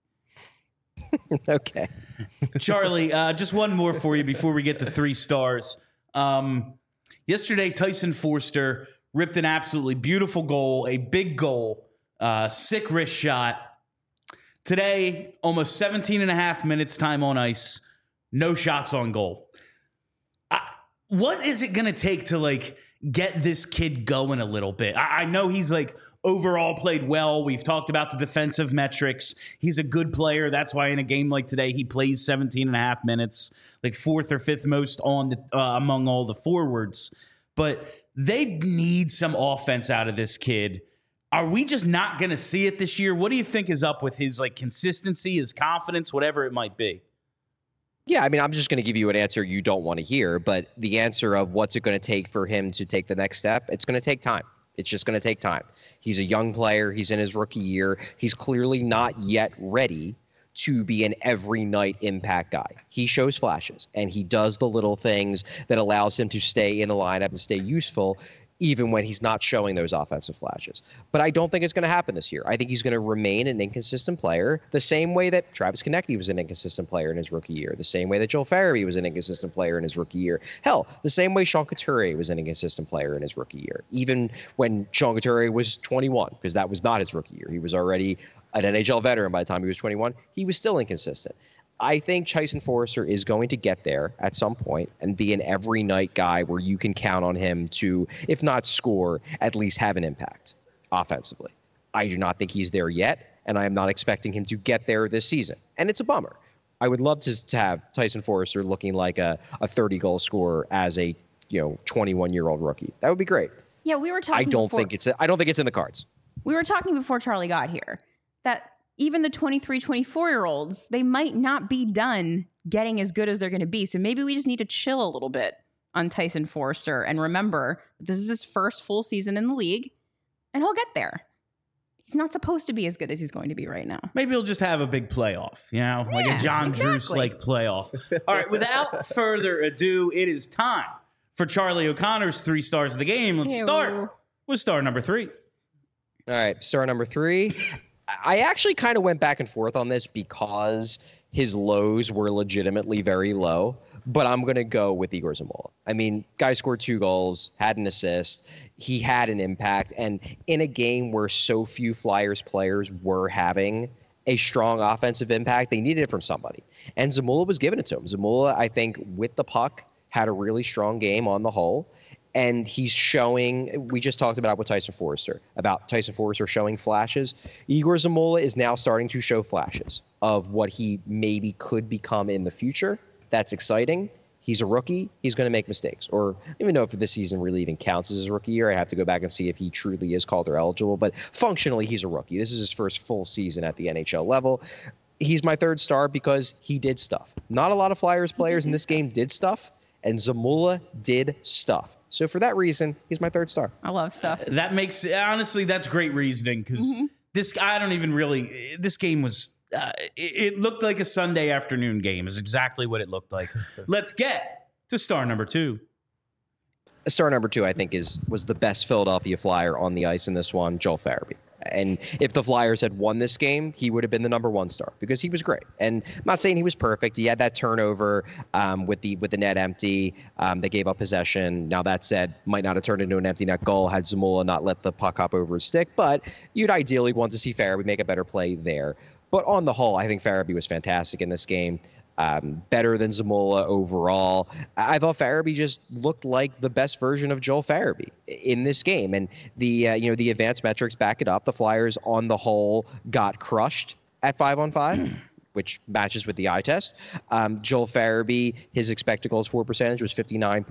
Okay. Charlie, just one more for you before we get to 3 stars. Yesterday, Tyson Forster ripped an absolutely beautiful goal, a big goal, sick wrist shot. Today, almost 17 and a half minutes time on ice, no shots on goal. What is it going to take to, like, get this kid going a little bit? I know he's, like, overall played well. We've talked about the defensive metrics. He's a good player. That's why in a game like today, he plays 17 and a half minutes, like 4th or 5th most on the, among all the forwards. But they need some offense out of this kid. Are we just not going to see it this year? What do you think is up with his, like, consistency, his confidence, whatever it might be? Yeah, I mean, I'm just going to give you an answer you don't want to hear, but the answer of what's it going to take for him to take the next step, it's going to take time. It's just going to take time. He's a young player. He's in his rookie year. He's clearly not yet ready to be an every night impact guy. He shows flashes, and he does the little things that allows him to stay in the lineup and stay useful. even when he's not showing those offensive flashes. But I don't think it's going to happen this year. I think he's going to remain an inconsistent player the same way that Travis Konecny was an inconsistent player in his rookie year, the same way that Joel Farabee was an inconsistent player in his rookie year. Hell, the same way Sean Couturier was an inconsistent player in his rookie year, even when Sean Couturier was 21, because that was not his rookie year. He was already an NHL veteran by the time he was 21. He was still inconsistent. I think Tyson Foerster is going to get there at some point and be an every night guy where you can count on him to, if not score, at least have an impact offensively. I do not think he's there yet, and I am not expecting him to get there this season. And it's a bummer. I would love to have Tyson Foerster looking like a 30-goal scorer as a 21-year-old rookie. That would be great. Yeah, we were talking. I don't think it's in the cards. We were talking before Charlie got here that even the 23, 24-year-olds, they might not be done getting as good as they're going to be. So maybe we just need to chill a little bit on Tyson Foerster and remember this is his first full season in the league, and he'll get there. He's not supposed to be as good as he's going to be right now. Maybe he'll just have a big playoff, like a John Druce-like playoff. All right, without further ado, it is time for Charlie O'Connor's 3 stars of the game. Let's start with star number 3. All right, star number 3. I actually kind of went back and forth on this because his lows were legitimately very low, but I'm going to go with Igor Zamula. I mean, guy scored 2 goals, had an assist. He had an impact. And in a game where so few Flyers players were having a strong offensive impact, they needed it from somebody. And Zamula was giving it to him. Zamula, I think, with the puck, had a really strong game on the whole. And he's showing, we just talked about with Tyson Foerster, showing flashes. Igor Zamula is now starting to show flashes of what he maybe could become in the future. That's exciting. He's a rookie. He's going to make mistakes. Or I don't even know if this season really even counts as his rookie year. I have to go back and see if he truly is Calder eligible. But functionally, he's a rookie. This is his first full season at the NHL level. He's my 3rd star because he did stuff. Not a lot of Flyers players in this game did stuff, and Zamula did stuff. So for that reason, he's my 3rd star. I love stuff. That makes, honestly, that's great reasoning because this game was, it looked like a Sunday afternoon game is exactly what it looked like. Let's get to star number 2. Star number 2, I think, was the best Philadelphia Flyer on the ice in this one, Joel Farabee. And if the Flyers had won this game, he would have been the number 1 star because he was great. And I'm not saying he was perfect. He had that turnover with the net empty. They gave up possession. Now, that said, might not have turned into an empty net goal had Zamula not let the puck hop over his stick. But you'd ideally want to see Farabee make a better play there. But on the whole, I think Farabee was fantastic in this game. Better than Zamula overall. I thought Farabee just looked like the best version of Joel Farabee in this game. And the advanced metrics back it up. The Flyers on the whole got crushed at 5-on-5, which matches with the eye test. Joel Farabee, his expected goals for percentage was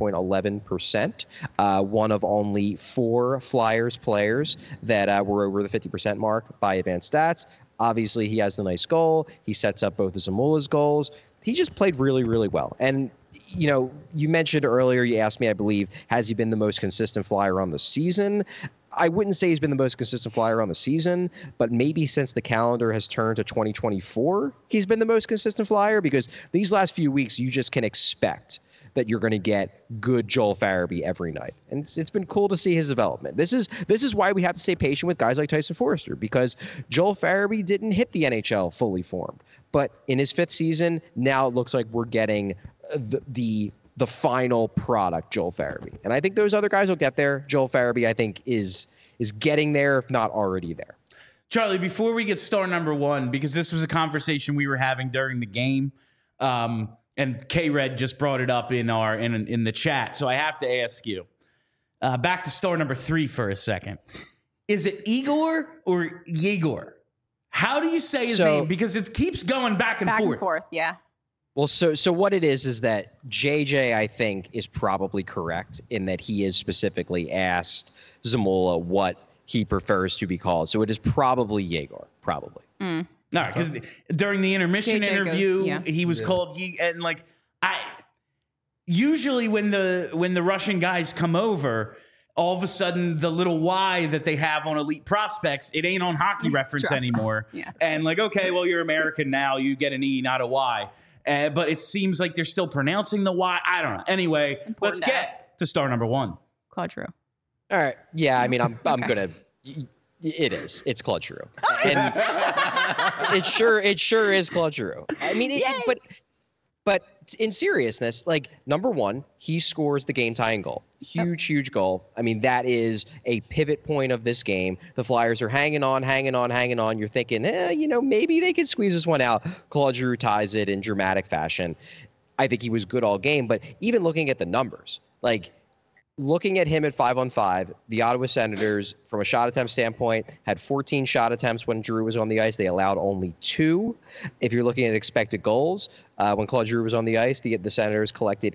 59.11%. One of only 4 Flyers players that were over the 50% mark by advanced stats. Obviously, he has the nice goal. He sets up both of Zamula's goals. He just played really, really well. And, you mentioned earlier, you asked me, I believe, has he been the most consistent Flyer on the season? I wouldn't say he's been the most consistent Flyer on the season, but maybe since the calendar has turned to 2024, he's been the most consistent Flyer because these last few weeks, you just can expect that you're going to get good Joel Farabee every night. And it's been cool to see his development. This is why we have to stay patient with guys like Tyson Foerster, because Joel Farabee didn't hit the NHL fully formed. But in his 5th season, now it looks like we're getting the final product, Joel Farabee. And I think those other guys will get there. Joel Farabee, I think, is getting there, if not already there. Charlie, before we get star number 1, because this was a conversation we were having during the game, and K-Red just brought it up in the chat, so I have to ask you. Back to star number 3 for a second. Is it Igor or Yegor? How do you say his name? Because it keeps going back and forth. Yeah. Well, so what it is that JJ, I think, is probably correct in that he is specifically asked Zamula what he prefers to be called. So it is probably Yegor, probably. No, because during the intermission interview, he was called and usually when the Russian guys come over, all of a sudden the little Y that they have on Elite Prospects, it ain't on Hockey Reference anymore. Yeah. And okay, well, you're American now, you get an E, not a Y. But it seems like they're still pronouncing the Y. I don't know. Anyway, let's get to star number 1. Claude Giroux. All right. Yeah, I mean, I'm gonna. It is. It's Claude Giroux, and it sure is Claude Giroux. I mean, but in seriousness, like, number one, he scores the game-tying goal. Huge goal. I mean, that is a pivot point of this game. The Flyers are hanging on. You're thinking, maybe they could squeeze this one out. Claude Giroux ties it in dramatic fashion. I think he was good all game, but even looking at the numbers, like, looking at him at 5-on-5, the Ottawa Senators, from a shot attempt standpoint, had 14 shot attempts when Giroux was on the ice. They allowed only 2. If you're looking at expected goals, when Claude Giroux was on the ice, the Senators collected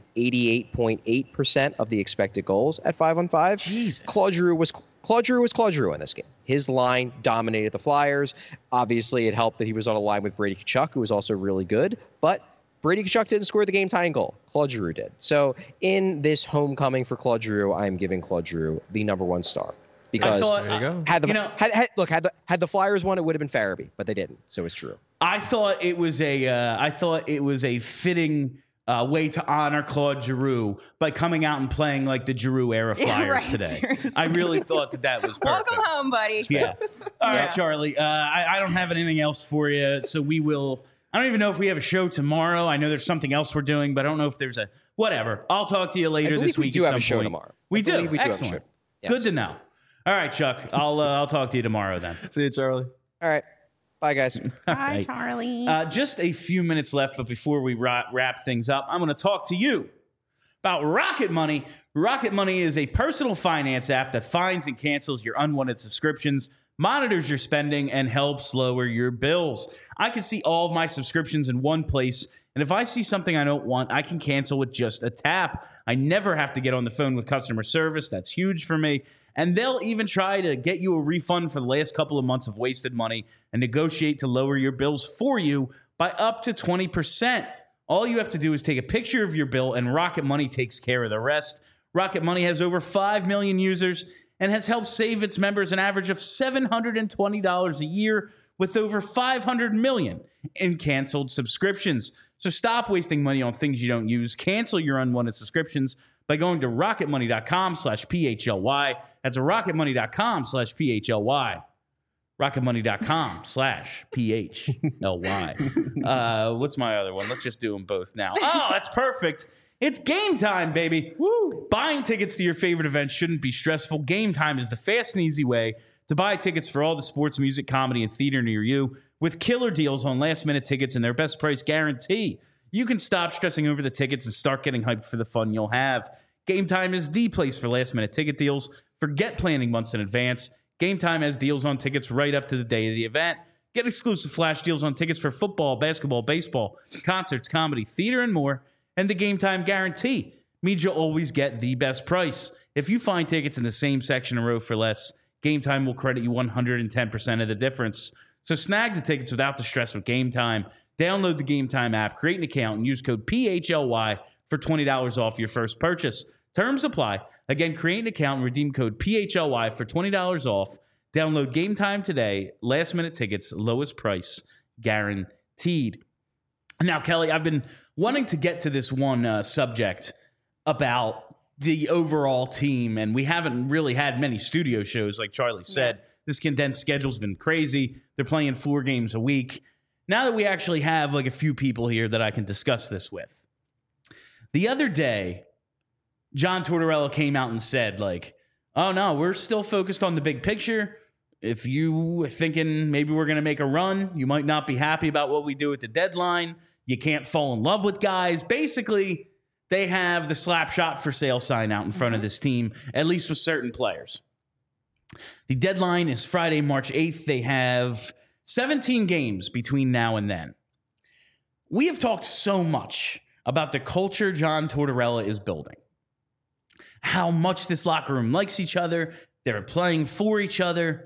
88.8% of the expected goals at 5-on-5. Jesus. Claude Giroux was Claude Giroux in this game. His line dominated the Flyers. Obviously, it helped that he was on a line with Brady Tkachuk, who was also really good, but Brady Tkachuk didn't score the game-tying goal. Claude Giroux did. So in this homecoming for Claude Giroux, I am giving Claude Giroux the ‑1 star. Because there you go. had the Flyers won, it would have been Farabee, but they didn't. So it's true. I thought it was a fitting way to honor Claude Giroux by coming out and playing like the Giroux era Flyers today. Seriously. I really thought that was perfect. Welcome home, buddy. Yeah. All right, Charlie. I don't have anything else for you, so we will. I don't even know if we have a show tomorrow. I know there's something else we're doing, but I don't know if there's a whatever. I'll talk to you later this week. We do at have some a show point. tomorrow. We do. Have a Excellent. show. Yes. Good to know. All right, Chuck. I'll talk to you tomorrow then. See you, Charlie. All right. Bye, guys. Bye, Charlie. Just a few minutes left, but before we wrap things up, I'm going to talk to you about Rocket Money. Rocket Money is a personal finance app that finds and cancels your unwanted subscriptions, monitors your spending, and helps lower your bills. I can see all of my subscriptions in one place, and if I see something I don't want, I can cancel with just a tap. I never have to get on the phone with customer service. That's huge for me. And they'll even try to get you a refund for the last couple of months of wasted money and negotiate to lower your bills for you by up to 20%. All you have to do is take a picture of your bill, and Rocket Money takes care of the rest. Rocket Money has over 5 million users and has helped save its members an average of $720 a year with over 500 million in canceled subscriptions. So stop wasting money on things you don't use. Cancel your unwanted subscriptions by going to rocketmoney.com/PHLY. That's rocketmoney.com/PHLY. rocketmoney.com/PHLY. What's my other one? Let's just do them both now. Oh, that's perfect. It's game time, baby. Woo! Buying tickets to your favorite events shouldn't be stressful. Game Time is the fast and easy way to buy tickets for all the sports, music, comedy, and theater near you with killer deals on last-minute tickets and their best price guarantee. You can stop stressing over the tickets and start getting hyped for the fun you'll have. Game Time is the place for last-minute ticket deals. Forget planning months in advance. Game Time has deals on tickets right up to the day of the event. Get exclusive flash deals on tickets for football, basketball, baseball, concerts, comedy, theater, and more. And the Game Time guarantee means you'll always get the best price. If you find tickets in the same section or row for less, Game Time will credit you 110% of the difference. So snag the tickets without the stress with Game Time. Download the Game Time app, create an account, and use code PHLY for $20 off your first purchase. Terms apply. Again, create an account and redeem code PHLY for $20 off. Download Game Time today. Last minute tickets, lowest price guaranteed. Now, Kelly, I've been wanting to get to this one subject about the overall team, and we haven't really had many studio shows, like Charlie said. Yeah. This condensed schedule's been crazy. They're playing 4 games a week. Now that we actually have like a few people here that I can discuss this with. The other day, John Tortorella came out and said, like, oh, no, we're still focused on the big picture. If you are thinking maybe we're going to make a run, you might not be happy about what we do at the deadline. You can't fall in love with guys. Basically, they have the slap shot for sale sign out in front of this team, at least with certain players. The deadline is Friday, March 8th. They have 17 games between now and then. We have talked so much about the culture John Tortorella is building. How much this locker room likes each other. They're playing for each other.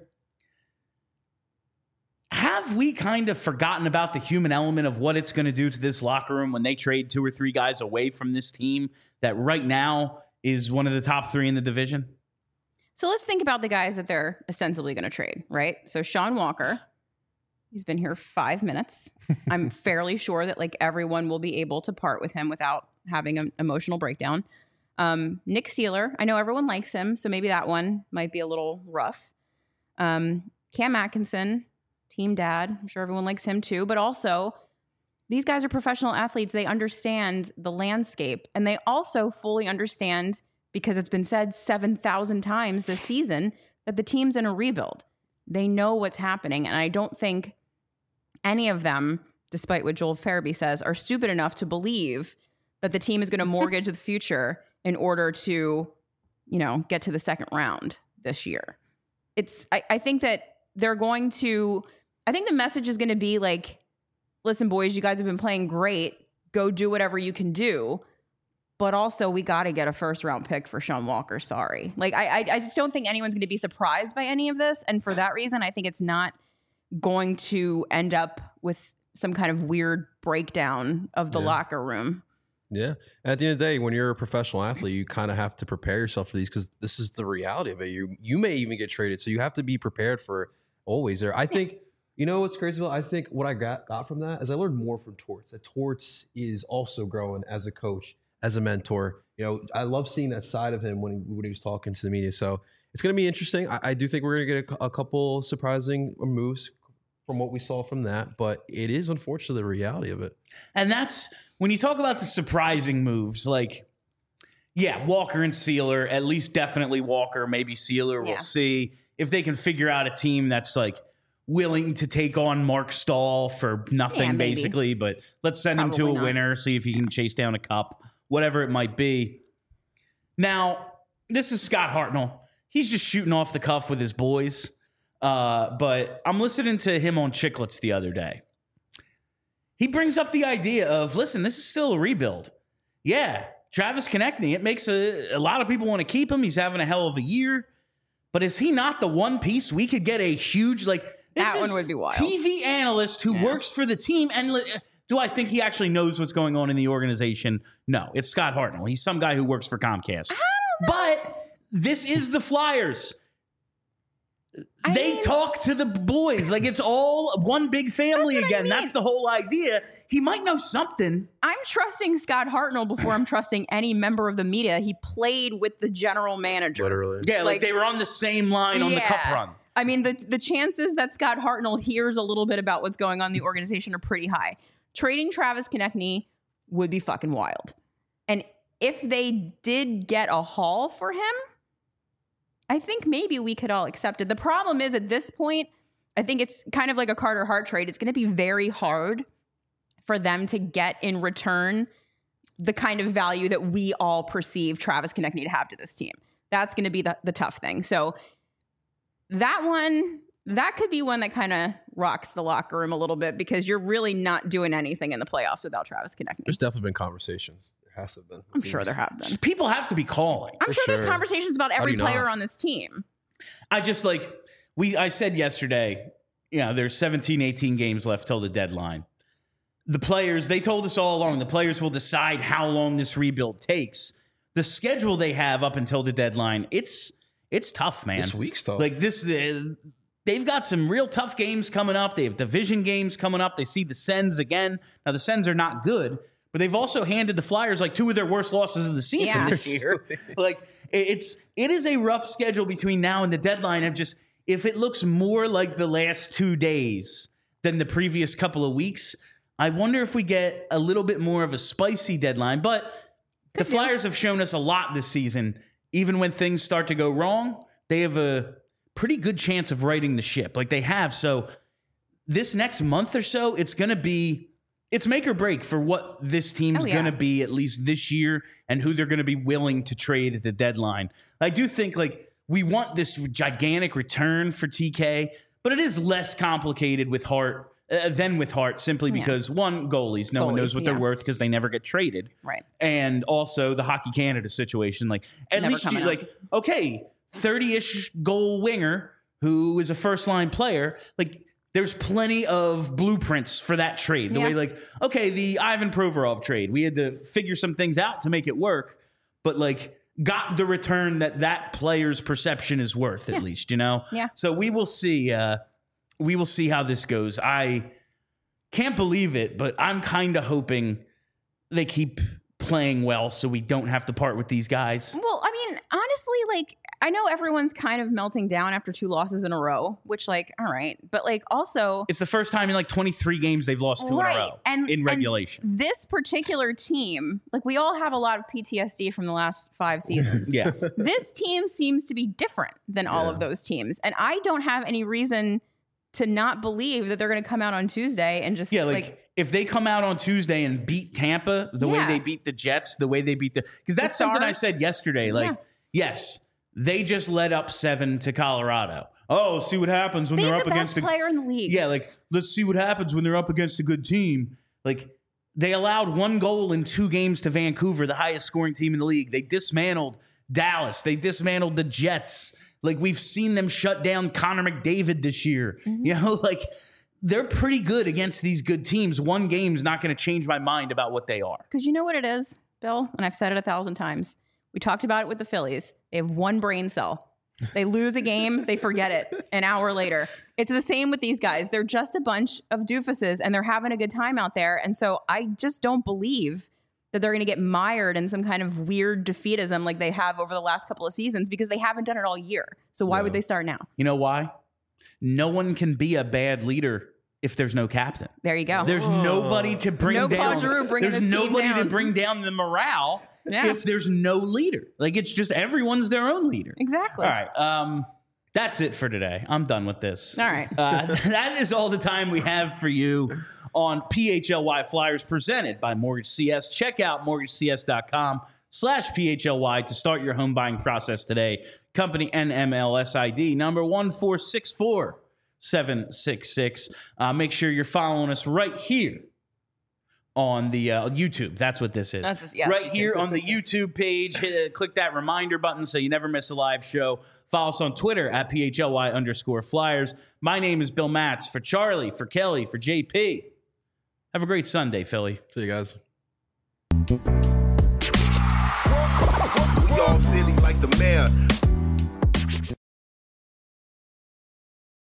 Have we kind of forgotten about the human element of what it's going to do to this locker room when they trade 2 or 3 guys away from this team that right now is one of the top 3 in the division? So let's think about the guys that they're ostensibly going to trade, right? So Sean Walker, he's been here 5 minutes. I'm fairly sure that like everyone will be able to part with him without having an emotional breakdown. Nick Sealer, I know everyone likes him, so maybe that one might be a little rough. Cam Atkinson, team dad. I'm sure everyone likes him too. But also, these guys are professional athletes. They understand the landscape. And they also fully understand, because it's been said 7,000 times this season, that the team's in a rebuild. They know what's happening. And I don't think any of them, despite what Joel Farabee says, are stupid enough to believe that the team is going to mortgage the future in order to, get to the second round this year. I think that they're going to, I think the message is going to be like, listen, boys, you guys have been playing great. Go do whatever you can do. But also, we got to get a first-round pick for Sean Walker. Sorry. Like, I just don't think anyone's going to be surprised by any of this. And for that reason, I think it's not going to end up with some kind of weird breakdown of the locker room. Yeah. At the end of the day, when you're a professional athlete, you kind of have to prepare yourself for these because this is the reality of it. You may even get traded, so you have to be prepared for it always there. I think, what's crazy about, I think what I got from that is I learned more from Torts. That Torts is also growing as a coach, as a mentor. I love seeing that side of him when he was talking to the media. So it's going to be interesting. I do think we're going to get a couple surprising moves from what we saw from that, but it is unfortunately the reality of it. And that's when you talk about the surprising moves, like, Walker and Sealer, at least definitely Walker, maybe Sealer. We'll see if they can figure out a team that's like willing to take on Mark Stahl for nothing, basically, but let's send him to a winner, see if he can chase down a cup, whatever it might be. Now, this is Scott Hartnell. He's just shooting off the cuff with his boys. But I'm listening to him on Chicklets the other day. He brings up the idea of, listen, this is still a rebuild. Yeah, Travis Konechny, it makes a lot of people want to keep him. He's having a hell of a year. But is he not the one piece we could get a huge, that one would be wild. TV analyst who works for the team? And do I think he actually knows what's going on in the organization? No, it's Scott Hartnell. He's some guy who works for Comcast. But this is the Flyers. They talk to the boys like it's all one big family again. That's the whole idea. He might know something. I'm trusting Scott Hartnell before I'm trusting any member of the media. He played with the general manager. Literally. Yeah, like they were on the same line on the cup run. I mean, the chances that Scott Hartnell hears a little bit about what's going on in the organization are pretty high. Trading Travis Konechny would be fucking wild. And if they did get a haul for him, I think maybe we could all accept it. The problem is at this point, I think it's kind of like a Carter Hart trade. It's going to be very hard for them to get in return the kind of value that we all perceive Travis Konechny to have to this team. That's going to be the tough thing. So that could be one that kind of rocks the locker room a little bit because you're really not doing anything in the playoffs without Travis Konechny. There's definitely been conversations. Has to have been. I'm sure there have been. People have to be calling. I'm sure there's conversations about every player on this team. I just I said yesterday, there's 17, 18 games left till the deadline. The players, they told us all along, the players will decide how long this rebuild takes. The schedule they have up until the deadline, it's tough, man. This week's tough. They've got some real tough games coming up. They have division games coming up. They see the Sens again. Now, the Sens are not good, but they've also handed the Flyers two of their worst losses of the season this year. It is a rough schedule between now and the deadline of just, if it looks more like the last 2 days than the previous couple of weeks, I wonder if we get a little bit more of a spicy deadline. But the Flyers have shown us a lot this season. Even when things start to go wrong, they have a pretty good chance of righting the ship like they have. So this next month or so, it's going to be, it's make or break for what this team's going to be, at least this year, and who they're going to be willing to trade at the deadline. I do think we want this gigantic return for TK, but it is less complicated with Hart than with Hart, simply because one, goalies, no one knows what they're worth because they never get traded. Right. And also the Hockey Canada situation. At least 30-ish goal winger who is a first-line player, there's plenty of blueprints for that trade. The way the Ivan Provorov trade, we had to figure some things out to make it work, but got the return that player's perception is worth at least, Yeah. So we will see. We will see how this goes. I can't believe it, but I'm kind of hoping they keep playing well so we don't have to part with these guys? Well, I mean, honestly, like, I know everyone's kind of melting down after 2 losses in a row, which, like, all right. But, like, also... It's the first time in, like, 23 games they've lost 2 in a row in regulation. And this particular team, like, we all have a lot of PTSD from the last 5 seasons. Yeah. This team seems to be different than all of those teams. And I don't have any reason to not believe that they're going to come out on Tuesday and just, like if they come out on Tuesday and beat Tampa the way they beat the Jets, the way they beat because that's something I said yesterday. Like, yes, they just led up 7 to Colorado. Oh, see what happens when they're up against the best player in the league. Yeah, like, let's see what happens when they're up against a good team. Like, they allowed 1 goal in 2 games to Vancouver, the highest scoring team in the league. They dismantled Dallas. They dismantled the Jets. Like, we've seen them shut down Connor McDavid this year. You know, like, they're pretty good against these good teams. 1 game's not going to change my mind about what they are. Because you know what it is, Bill? And I've said it 1,000 times. We talked about it with the Phillies. They have 1 brain cell. They lose a game, they forget it an hour later. It's the same with these guys. They're just a bunch of doofuses, and they're having a good time out there. And so I just don't believe that they're going to get mired in some kind of weird defeatism like they have over the last couple of seasons, because they haven't done it all year. So why would they start now? You know why? No one can be a bad leader if there's no captain. There you go. There's nobody to bring down. Claude Giroux bringing there's this team nobody down. to bring down the morale if there's no leader. Like, it's just everyone's their own leader. Exactly. All right. That's it for today. I'm done with this. All right. That is all the time we have for you on PHLY Flyers, presented by Mortgage CS. Check out mortgagecs.com/PHLY to start your home buying process today. Company NMLS ID number 1464766. Make sure you're following us right here on the YouTube. That's what this is. Right here on the YouTube page. Click that reminder button so you never miss a live show. Follow us on Twitter at PHLY_Flyers. My name is Bill Matz. For Charlie, for Kelly, for JP. Have a great Sunday, Philly. See you guys. We all silly like the mayor.